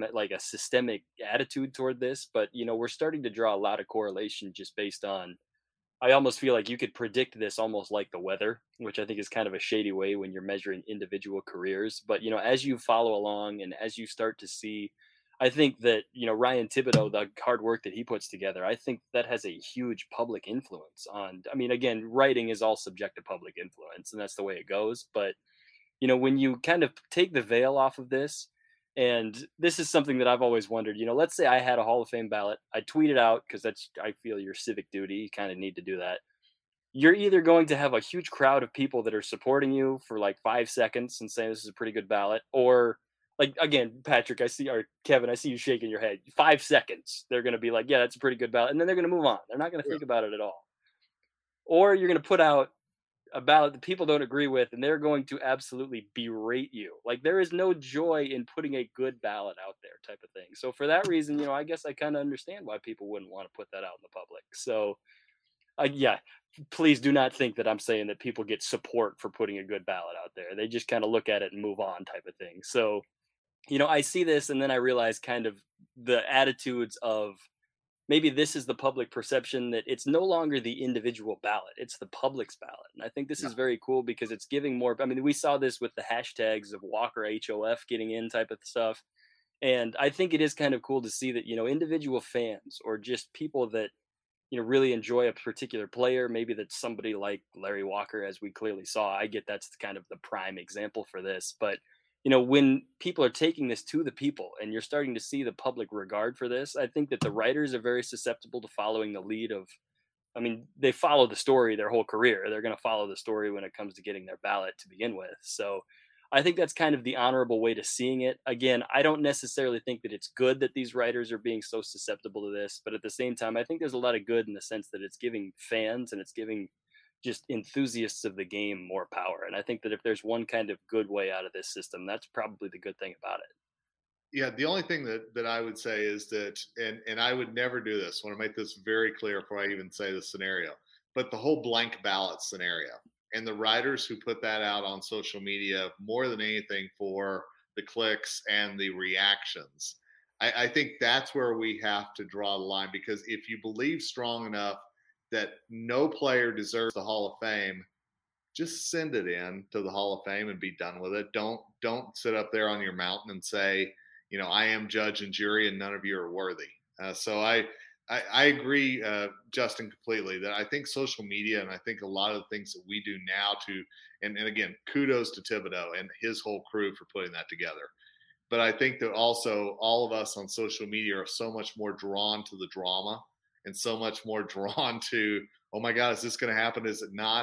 systemic attitude toward this. But, we're starting to draw a lot of correlation just based on, I almost feel like you could predict this almost like the weather, which I think is kind of a shady way when you're measuring individual careers. But, as you follow along and as you start to see, I think that, Ryan Thibodeau, the hard work that he puts together, I think that has a huge public influence on, I mean, again, writing is all subject to public influence, and that's the way it goes. But, when you kind of take the veil off of this, and this is something that I've always wondered, let's say I had a Hall of Fame ballot, I tweet it out because I feel your civic duty, you kind of need to do that. You're either going to have a huge crowd of people that are supporting you for like 5 seconds and saying this is a pretty good ballot, or like, again, Patrick, or Kevin, I see you shaking your head. 5 seconds, they're going to be like, yeah, that's a pretty good ballot. And then they're going to move on. They're not going to think about it at all. Or you're going to put out a ballot that people don't agree with, and they're going to absolutely berate you. Like, there is no joy in putting a good ballot out there, type of thing. So for that reason, I guess I kind of understand why people wouldn't want to put that out in the public. So yeah, please do not think that I'm saying that people get support for putting a good ballot out there. They just kind of look at it and move on, type of thing. So I see this and then I realize kind of the attitudes of maybe this is the public perception that it's no longer the individual ballot, it's the public's ballot. And I think this
Yeah.
is very cool because it's giving more. I mean, we saw this with the hashtags of Walker HOF getting in type of stuff. And I think it is kind of cool to see that, individual fans or just people that, really enjoy a particular player, maybe that's somebody like Larry Walker, as we clearly saw. I get that's kind of the prime example for this. But, when people are taking this to the people and you're starting to see the public regard for this, I think that the writers are very susceptible to following the lead of, I mean, they follow the story their whole career. They're going to follow the story when it comes to getting their ballot to begin with. So I think that's kind of the honorable way to seeing it. Again, I don't necessarily think that it's good that these writers are being so susceptible to this, but at the same time, I think there's a lot of good in the sense that it's giving fans and it's giving just enthusiasts of the game more power. And I think that if there's one kind of good way out of this system, that's probably the good thing about it.
Yeah, the only thing that I would say is that, and I would never do this. I want to make this very clear before I even say the scenario, but the whole blank ballot scenario and the writers who put that out on social media more than anything for the clicks and the reactions. I think that's where we have to draw the line, because if you believe strong enough that no player deserves the Hall of Fame, just send it in to the Hall of Fame and be done with it. Don't sit up there on your mountain and say, I am judge and jury and none of you are worthy. So I agree, Justin, completely, that I think social media and I think a lot of the things that we do now and again, kudos to Thibodeau and his whole crew for putting that together. But I think that also all of us on social media are so much more drawn to the drama and so much more drawn to, oh my God, is this going to happen? Is it not?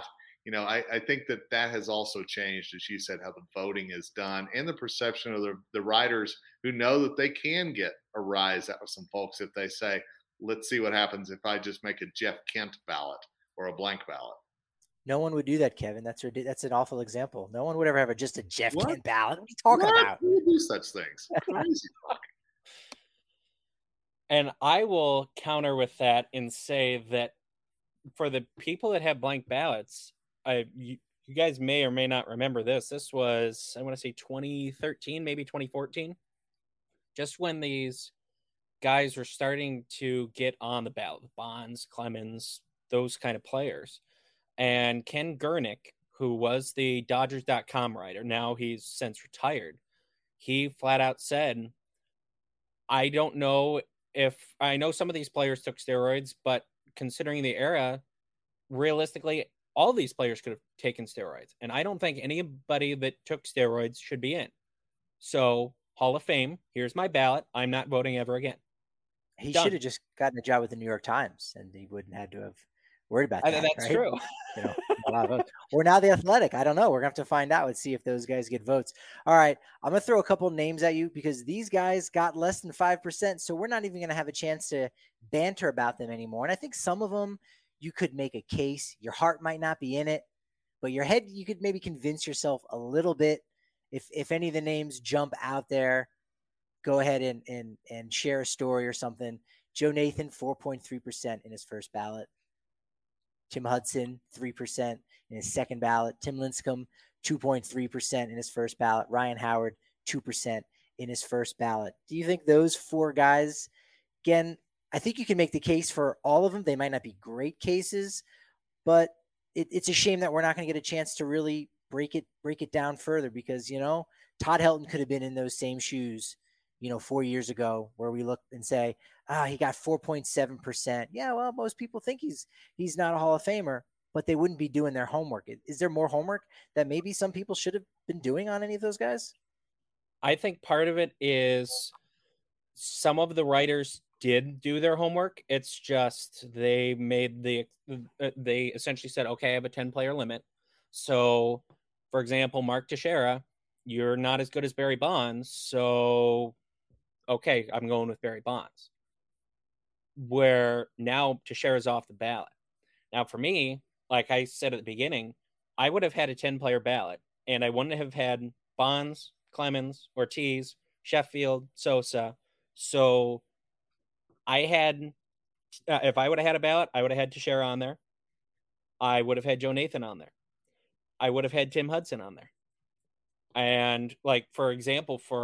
I think that has also changed, as you said, how the voting is done and the perception of the writers who know that they can get a rise out of some folks if they say, let's see what happens if I just make a Jeff Kent ballot or a blank ballot.
No one would do that, Kevin. That's an awful example. No one would ever have just a Jeff
What?
Kent ballot. What are you talking about?
Who would do such things? Crazy.
And I will counter with that and say that for the people that have blank ballots, you guys may or may not remember this. This was, I want to say 2013, maybe 2014, just when these guys were starting to get on the ballot, Bonds, Clemens, those kind of players. And Ken Gurnick, who was the Dodgers.com writer, now he's since retired, he flat out said, I don't know I know some of these players took steroids, but considering the era, realistically, all these players could have taken steroids. And I don't think anybody that took steroids should be in. So, Hall of Fame, here's my ballot. I'm not voting ever again.
He should have just gotten a job with the New York Times and he wouldn't have to have worried about that.
That's
right?
true.
A lot of votes. Or now The Athletic. I don't know. We're going to have to find out and see if those guys get votes. All right. I'm going to throw a couple names at you because these guys got less than 5%. So we're not even going to have a chance to banter about them anymore. And I think some of them, you could make a case. Your heart might not be in it, but your head, you could maybe convince yourself a little bit. If any of the names jump out there, go ahead and share a story or something. Joe Nathan, 4.3% in his first ballot. Tim Hudson, 3% in his second ballot. Tim Lincecum, 2.3% in his first ballot. Ryan Howard, 2% in his first ballot. Do you think those four guys, again, I think you can make the case for all of them. They might not be great cases, but it's a shame that we're not going to get a chance to really break it down further because, Todd Helton could have been in those same shoes, 4 years ago where we look and say, he got 4.7%. Yeah, well, most people think he's not a Hall of Famer, but they wouldn't be doing their homework. Is there more homework that maybe some people should have been doing on any of those guys?
I think part of it is some of the writers did do their homework. It's just they essentially said, okay, I have a 10-player limit. So, for example, Mark Teixeira, you're not as good as Barry Bonds, so okay, I'm going with Barry Bonds. Where now Teixeira's off the ballot. Now, for me, like I said at the beginning, I would have had a 10-player ballot, and I wouldn't have had Bonds, Clemens, Ortiz, Sheffield, Sosa. So I had, if I would have had a ballot, I would have had Teixeira on there. I would have had Joe Nathan on there. I would have had Tim Hudson on there. And like, for example, for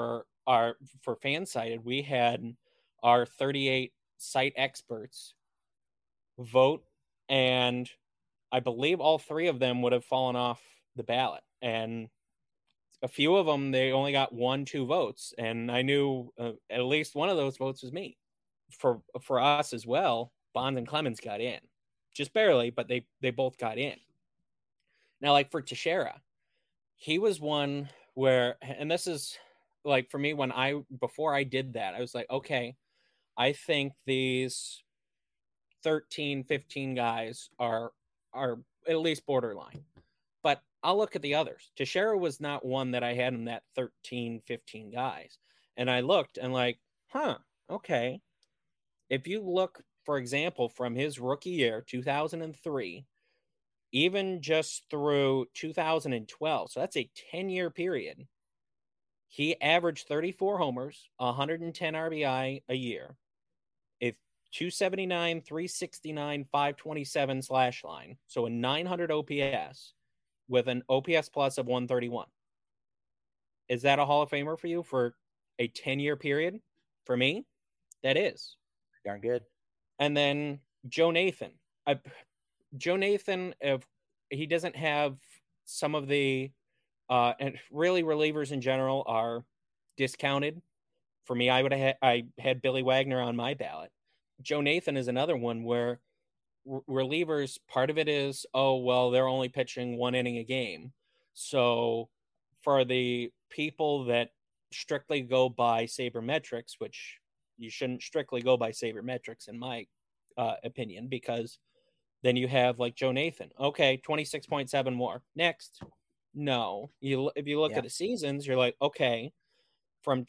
for Fansided, we had our 38 site experts vote, and I believe all 3 of them would have fallen off the ballot. And a few of them, they only got 1-2 votes. And I knew at least one of those votes was me. For us as well, Bonds and Clemens got in. Just barely, but they both got in. Now, like for Teixeira, he was one where, and this is like for me, before I did that, I was like, okay, I think these 13, 15 guys are at least borderline. But I'll look at the others. Teixeira was not one that I had in that 13, 15 guys. And I looked and like, okay. If you look, for example, from his rookie year, 2003, even just through 2012, so that's a 10-year period, he averaged 34 homers, 110 RBI a year, a 279, 369, 527 slash line, so a 900 OPS with an OPS plus of 131. Is that a Hall of Famer for you for a 10-year period? For me, that is.
Darn good.
And then Joe Nathan. Joe Nathan, if he doesn't have some of the and really relievers in general are discounted. For me, I had Billy Wagner on my ballot. Joe Nathan is another one where relievers, part of it is, oh, well, they're only pitching 1 inning a game. So for the people that strictly go by sabermetrics, which you shouldn't strictly go by sabermetrics in my opinion, because then you have like Joe Nathan. Okay, 26.7 more. Next. No. If you look at the seasons, you're like, okay, from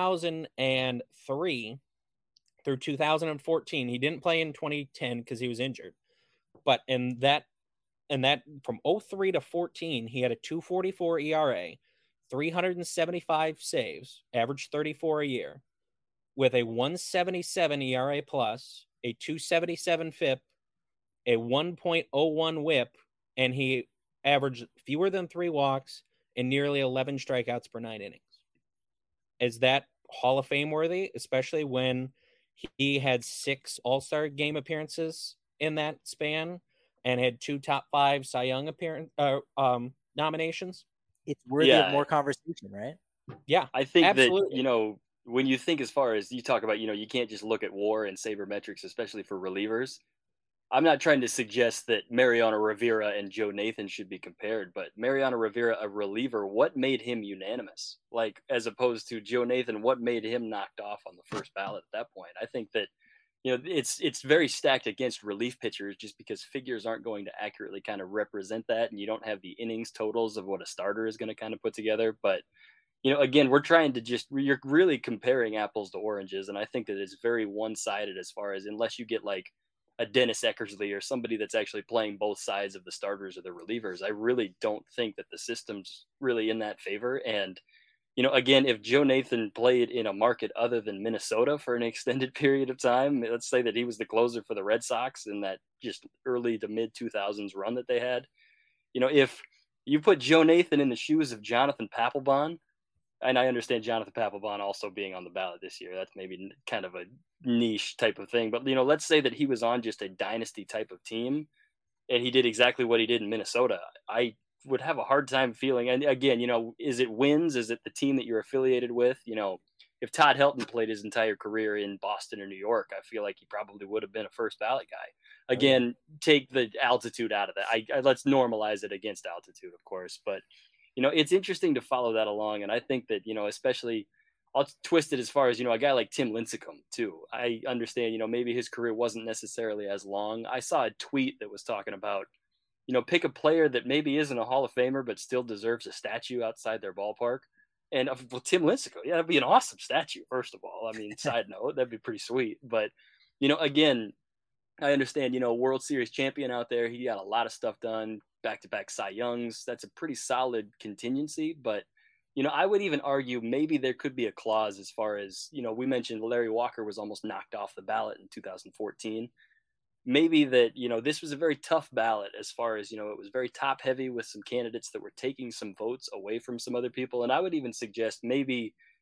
2003 through 2014, he didn't play in 2010 because he was injured. But in that from 03 to 14, he had a 2.44 ERA, 375 saves, averaged 34 a year, with a 1.77 ERA plus, a 2.77 FIP, a 1.01 WHIP, and he averaged fewer than 3 walks and nearly 11 strikeouts per 9 innings. Is that Hall of Fame worthy, especially when he had 6 All-Star game appearances in that span and had 2 top 5 Cy Young nominations?
It's worthy of more conversation, right?
Yeah,
I think
absolutely.
that, when you think as far as you talk about, you can't just look at WAR and sabermetrics, especially for relievers. I'm not trying to suggest that Mariano Rivera and Joe Nathan should be compared, but Mariano Rivera, a reliever, what made him unanimous? Like, as opposed to Joe Nathan, what made him knocked off on the first ballot at that point? I think that, it's very stacked against relief pitchers just because figures aren't going to accurately kind of represent that, and you don't have the innings totals of what a starter is going to kind of put together. But again, you're really comparing apples to oranges. And I think that it's very one-sided as far as, unless you get like a Dennis Eckersley or somebody that's actually playing both sides of the starters or the relievers, I really don't think that the system's really in that favor. And, again, if Joe Nathan played in a market other than Minnesota for an extended period of time, let's say that he was the closer for the Red Sox in that just early to mid 2000s run that they had, if you put Joe Nathan in the shoes of Jonathan Papelbon, and I understand Jonathan Papelbon also being on the ballot this year, that's maybe kind of a niche type of thing. But, let's say that he was on just a dynasty type of team and he did exactly what he did in Minnesota. I would have a hard time feeling, and again, is it wins? Is it the team that you're affiliated with? If Todd Helton played his entire career in Boston or New York, I feel like he probably would have been a first ballot guy. Again, take the altitude out of that. Let's normalize it against altitude, of course, but it's interesting to follow that along. And I think that, especially I'll twist it as far as, a guy like Tim Lincecum too. I understand, maybe his career wasn't necessarily as long. I saw a tweet that was talking about, pick a player that maybe isn't a Hall of Famer, but still deserves a statue outside their ballpark. And Tim Lincecum, that'd be an awesome statue. First of all, I mean, side note, that'd be pretty sweet. But, again, I understand, World Series champion out there. He got a lot of stuff done, back-to-back Cy Youngs. That's a pretty solid contingency. But, I would even argue maybe there could be a clause as far as, we mentioned Larry Walker was almost knocked off the ballot in 2014. Maybe that, this was a very tough ballot as far as, it was very top heavy with some candidates that were taking some votes away from some other people. And I would even suggest maybe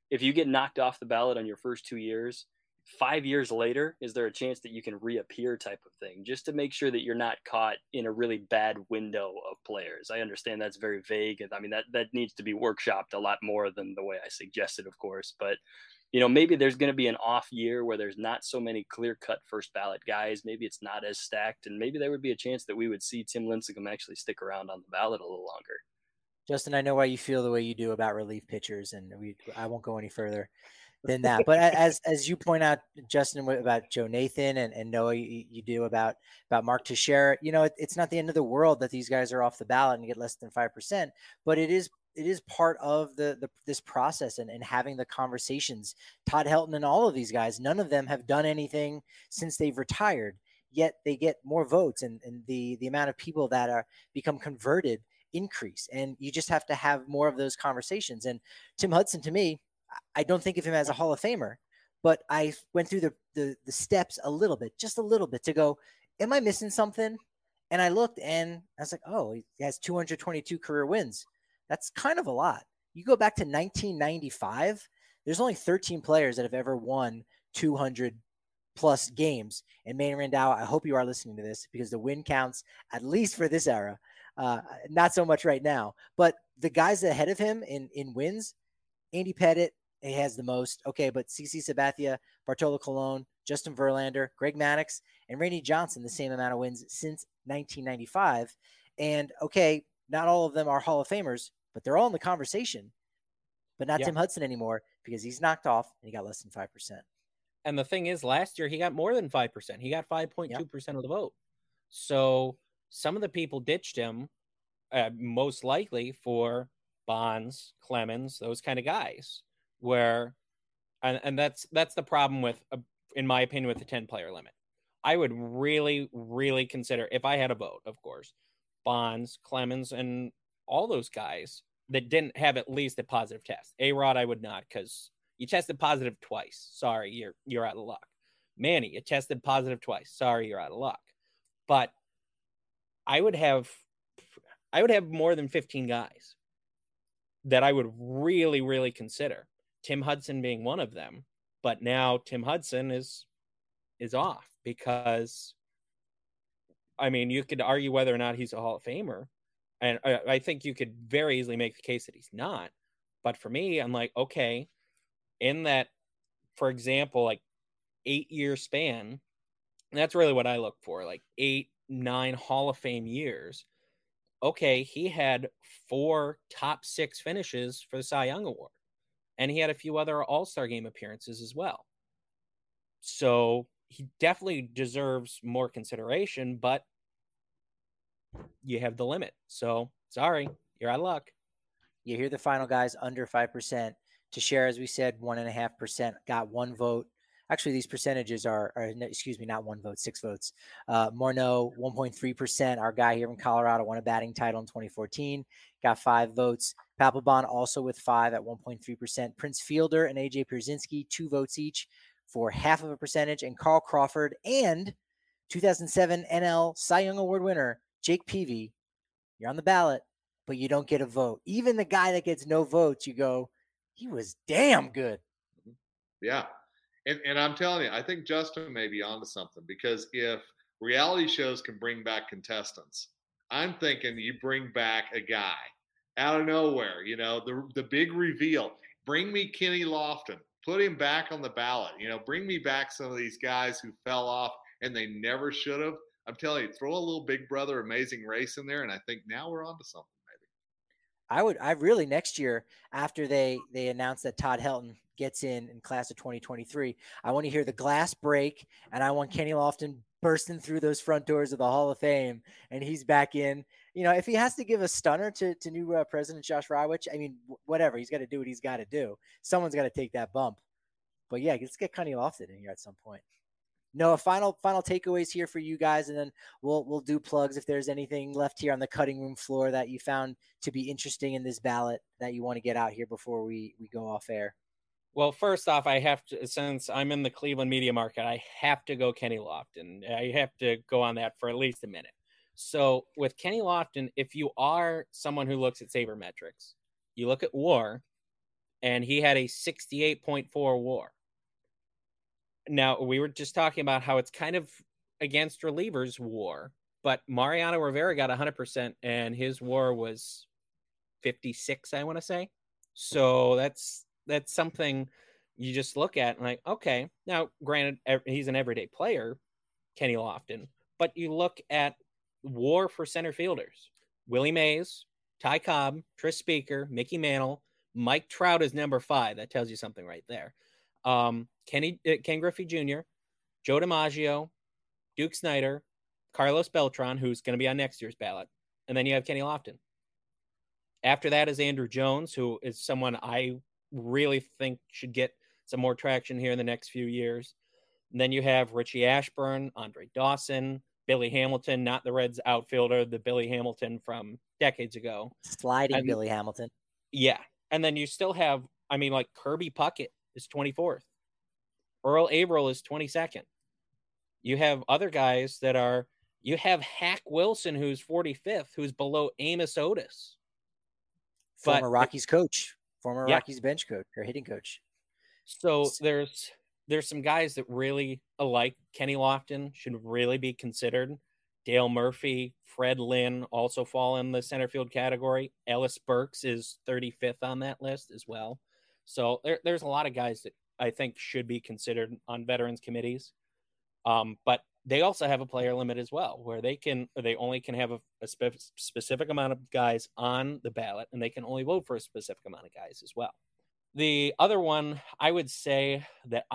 if you get knocked off the ballot on your first 2 years, 5 years later, is there a chance that you can reappear type of thing, just to make sure that you're not caught in a really bad window of players? I understand that's very vague. And I mean, that needs to be workshopped a lot more than the way I suggested, of course. But, maybe there's going to be an off year where there's not so many clear cut first ballot guys. Maybe it's not as stacked. And maybe there would be a chance that we would see Tim Lincecum actually stick around on the ballot a little longer.
Justin, I know why you feel the way you do about relief pitchers, and I won't go any further than that. But as you point out, Justin, about Joe Nathan and Noah, you do about Mark Teixeira, it's not the end of the world that these guys are off the ballot and get less than 5%, but it is part of this process and having the conversations. Todd Helton and all of these guys, none of them have done anything since they've retired, yet they get more votes, and the amount of people that are become converted increase, and you just have to have more of those conversations. And Tim Hudson, to me, I don't think of him as a Hall of Famer, but I went through the steps just a little bit to go, am I missing something? And I looked and I was like, oh, he has 222 career wins. That's kind of a lot. You go back to 1995, there's only 13 players that have ever won 200 plus games. And Manny Randall, I hope you are listening to this, because the win counts, at least for this era. Not so much right now, but the guys ahead of him in wins, Andy Pettitte, he has the most. Okay, but CC Sabathia, Bartolo Colon, Justin Verlander, Greg Maddux, and Randy Johnson, the same amount of wins since 1995. And okay, not all of them are Hall of Famers, but they're all in the conversation. But not Tim Hudson anymore, because he's knocked off and he got less than 5%.
And the thing is, last year he got more than 5%. He got 5.2% of the vote. So some of the people ditched him, most likely for Bonds, Clemens, those kind of guys. And that's the problem with, in my opinion, with the 10-player limit. I would really, really consider, if I had a vote, of course, Bonds, Clemens, and all those guys that didn't have at least a positive test. A-Rod, I would not, because you tested positive twice. Sorry, you're out of luck. Manny, you tested positive twice. Sorry, you're out of luck. But I would have more than 15 guys that I would really, really consider. Tim Hudson being one of them. But now Tim Hudson is off, because, I mean, you could argue whether or not he's a Hall of Famer. And I think you could very easily make the case that he's not. But for me, I'm like, okay, in that, for example, like 8-year span, that's really what I look for, like 8-9 Hall of Fame years. Okay, he had 4 top 6 finishes for the Cy Young Award, and he had a few other All-Star Game appearances as well. So he definitely deserves more consideration, but you have the limit. So sorry, you're out of luck.
You hear the final guys under 5%. Teixeira, as we said, 1.5%, got 1 vote. Actually, these percentages are not 1 vote, 6 votes. Morneau, 1.3%. Our guy here in Colorado won a batting title in 2014, got 5 votes. Papelbon also with 5 at 1.3%. Prince Fielder and AJ Pierzynski, 2 votes each for 0.5%. And Carl Crawford and 2007 NL Cy Young Award winner Jake Peavy, you're on the ballot, but you don't get a vote. Even the guy that gets no votes, you go, he was damn good.
Yeah. And I'm telling you, I think Justin may be onto something, because if reality shows can bring back contestants, I'm thinking you bring back a guy out of nowhere, the big reveal. Bring me Kenny Lofton, put him back on the ballot, bring me back some of these guys who fell off and they never should have. I'm telling you, throw a little Big Brother Amazing Race in there, and I think now we're onto something.
I really, next year, after they announce that Todd Helton gets in class of 2023, I want to hear the glass break, and I want Kenny Lofton bursting through those front doors of the Hall of Fame, and he's back in. If he has to give a stunner to new President Josh Rawitsch, I mean, whatever, he's got to do what he's got to do. Someone's got to take that bump. But yeah, let's get Kenny Lofton in here at some point. No, final takeaways here for you guys, and then we'll do plugs if there's anything left here on the cutting room floor that you found to be interesting in this ballot that you want to get out here before we go off air.
Well, first off, I have to, since I'm in the Cleveland media market, I have to go Kenny Lofton. I have to go on that for at least a minute. So with Kenny Lofton, if you are someone who looks at sabermetrics, you look at WAR, and he had a 68.4 WAR. Now, we were just talking about how it's kind of against relievers WAR, but Mariano Rivera got 100%, and his WAR was 56, I want to say. So that's something you just look at and like, okay, now granted, he's an everyday player, Kenny Lofton, but you look at WAR for center fielders: Willie Mays, Ty Cobb, Tris Speaker, Mickey Mantle, Mike Trout is number 5. That tells you something right there. Ken Griffey Jr., Joe DiMaggio, Duke Snyder, Carlos Beltran, who's going to be on next year's ballot, and then you have Kenny Lofton. After that is Andrew Jones, who is someone I really think should get some more traction here in the next few years. And then you have Richie Ashburn, Andre Dawson, Billy Hamilton, not the Reds outfielder, the Billy Hamilton from decades ago.
Sliding Billy Hamilton.
Yeah. And then you still have, like Kirby Puckett is 24th. Earl Averill is 22nd. You have other guys you have Hack Wilson, who's 45th, who's below Amos Otis.
Former Rockies coach, Rockies bench coach or hitting coach.
So there's some guys that really, like Kenny Lofton, should really be considered. Dale Murphy, Fred Lynn also fall in the center field category. Ellis Burks is 35th on that list as well. So there's a lot of guys that I think should be considered on veterans committees. But they also have a player limit as well, where they only can have a specific amount of guys on the ballot, and they can only vote for a specific amount of guys as well. The other one, I would say that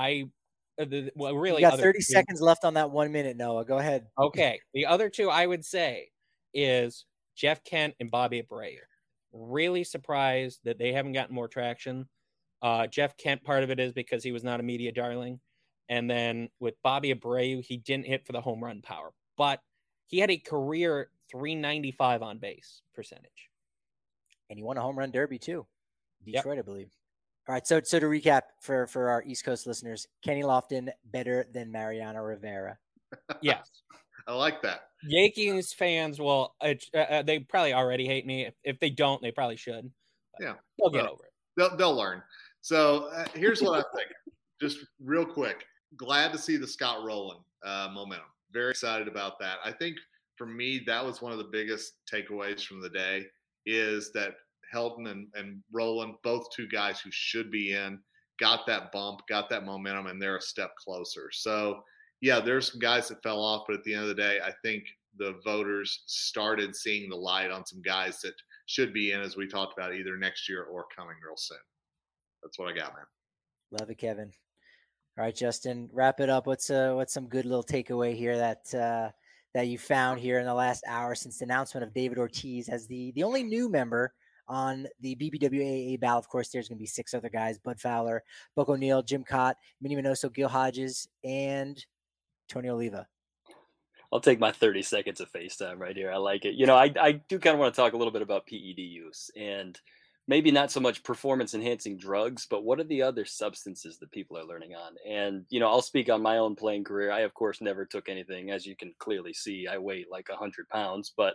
really,
you got 30 seconds left on that 1 minute, Noah. Go ahead.
Okay. The other two I would say is Jeff Kent and Bobby Abreu. Really surprised that they haven't gotten more traction. Jeff Kent, part of it is because he was not a media darling. And then with Bobby Abreu, he didn't hit for the home run power, but he had a career 395 on base percentage.
And he won a home run derby too. Detroit, yep. I believe. All right. So to recap for our East Coast listeners, Kenny Lofton better than Mariano Rivera.
Yes.
I like that.
Yankees fans will, they probably already hate me. If they don't, they probably should.
Yeah.
They'll get over it.
They'll learn. So here's what I'm thinking. Just real quick. Glad to see the Scott Rowland momentum. Very excited about that. I think for me, that was one of the biggest takeaways from the day is that Helton and Rowland, both two guys who should be in, got that bump, got that momentum, and they're a step closer. So, yeah, there's some guys that fell off, but at the end of the day, I think the voters started seeing the light on some guys that should be in, as we talked about, either next year or coming real soon. That's what I got, man.
Love it, Kevin. All right, Justin, wrap it up. What's some good little takeaway here that you found here in the last hour since the announcement of David Ortiz as the only new member on the BBWAA ballot? Of course, there's going to be 6 other guys: Bud Fowler, Buck O'Neill, Jim Cott, Minnie Minoso, Gil Hodges, and Tony Oliva.
I'll take my 30 seconds of FaceTime right here. I like it. I do kind of want to talk a little bit about PED use, and maybe not so much performance enhancing drugs, but what are the other substances that people are learning on? And, I'll speak on my own playing career. I, of course, never took anything. As you can clearly see, I weigh like 100 pounds. But,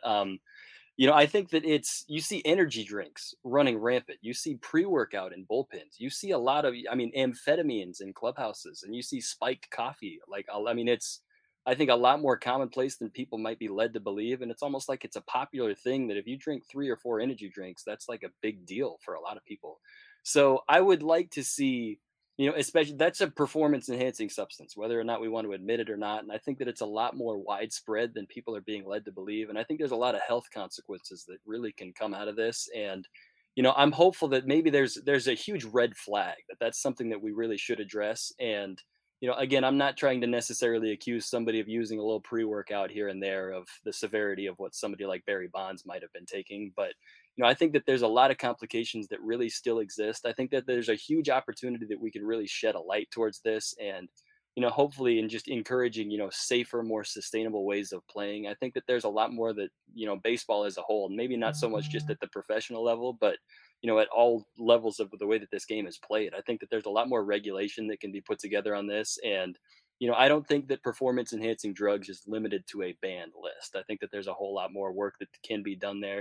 I think that you see energy drinks running rampant. You see pre-workout in bullpens. You see a lot of, amphetamines in clubhouses, and you see spiked coffee. It's, I think, a lot more commonplace than people might be led to believe. And it's almost like it's a popular thing that if you drink 3 or 4 energy drinks, that's like a big deal for a lot of people. So I would like to see, especially that's a performance enhancing substance, whether or not we want to admit it or not. And I think that it's a lot more widespread than people are being led to believe. And I think there's a lot of health consequences that really can come out of this. And, I'm hopeful that maybe there's a huge red flag that's something that we really should address. And, again, I'm not trying to necessarily accuse somebody of using a little pre-workout here and there of the severity of what somebody like Barry Bonds might have been taking. But, I think that there's a lot of complications that really still exist. I think that there's a huge opportunity that we can really shed a light towards this and, hopefully in just encouraging, safer, more sustainable ways of playing. I think that there's a lot more that, baseball as a whole, and maybe not so much just at the professional level, but at all levels of the way that this game is played. I think that there's a lot more regulation that can be put together on this. And, I don't think that performance enhancing drugs is limited to a banned list. I think that there's a whole lot more work that can be done there.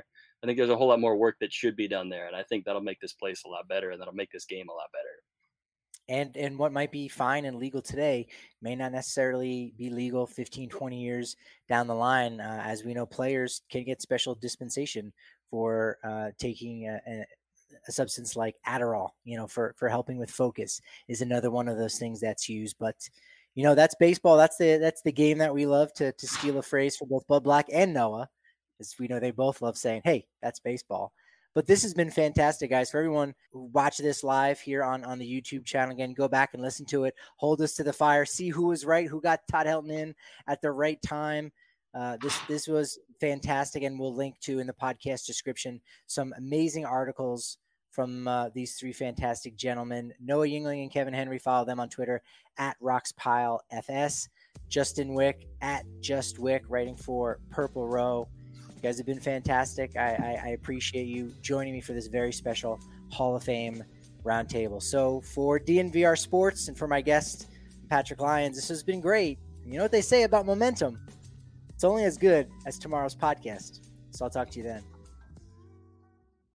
I think there's a whole lot more work that should be done there, and I think that'll make this place a lot better, and that'll make this game a lot better.
And what might be fine and legal today may not necessarily be legal 15, 20 years down the line. As we know, players can get special dispensation for taking a substance like Adderall, for helping with focus is another one of those things that's used. But, that's baseball. That's the game that we love, to steal a phrase from both Bud Black and Noah, as we know they both love saying, hey, that's baseball. But this has been fantastic, guys. For everyone who watch this live here on the YouTube channel, again, go back and listen to it. Hold us to the fire. See who was right, who got Todd Helton in at the right time. This was fantastic, and we'll link to in the podcast description some amazing articles from these three fantastic gentlemen. Noah Yingling and Kevin Henry. Follow them on Twitter at RoxPileFS. Justin Wick at JustWick, writing for Purple Row. You guys have been fantastic. I appreciate you joining me for this very special Hall of Fame roundtable. So for DNVR Sports and for my guest, Patrick Lyons, this has been great. You know what they say about momentum? It's only as good as tomorrow's podcast. So I'll talk to you then.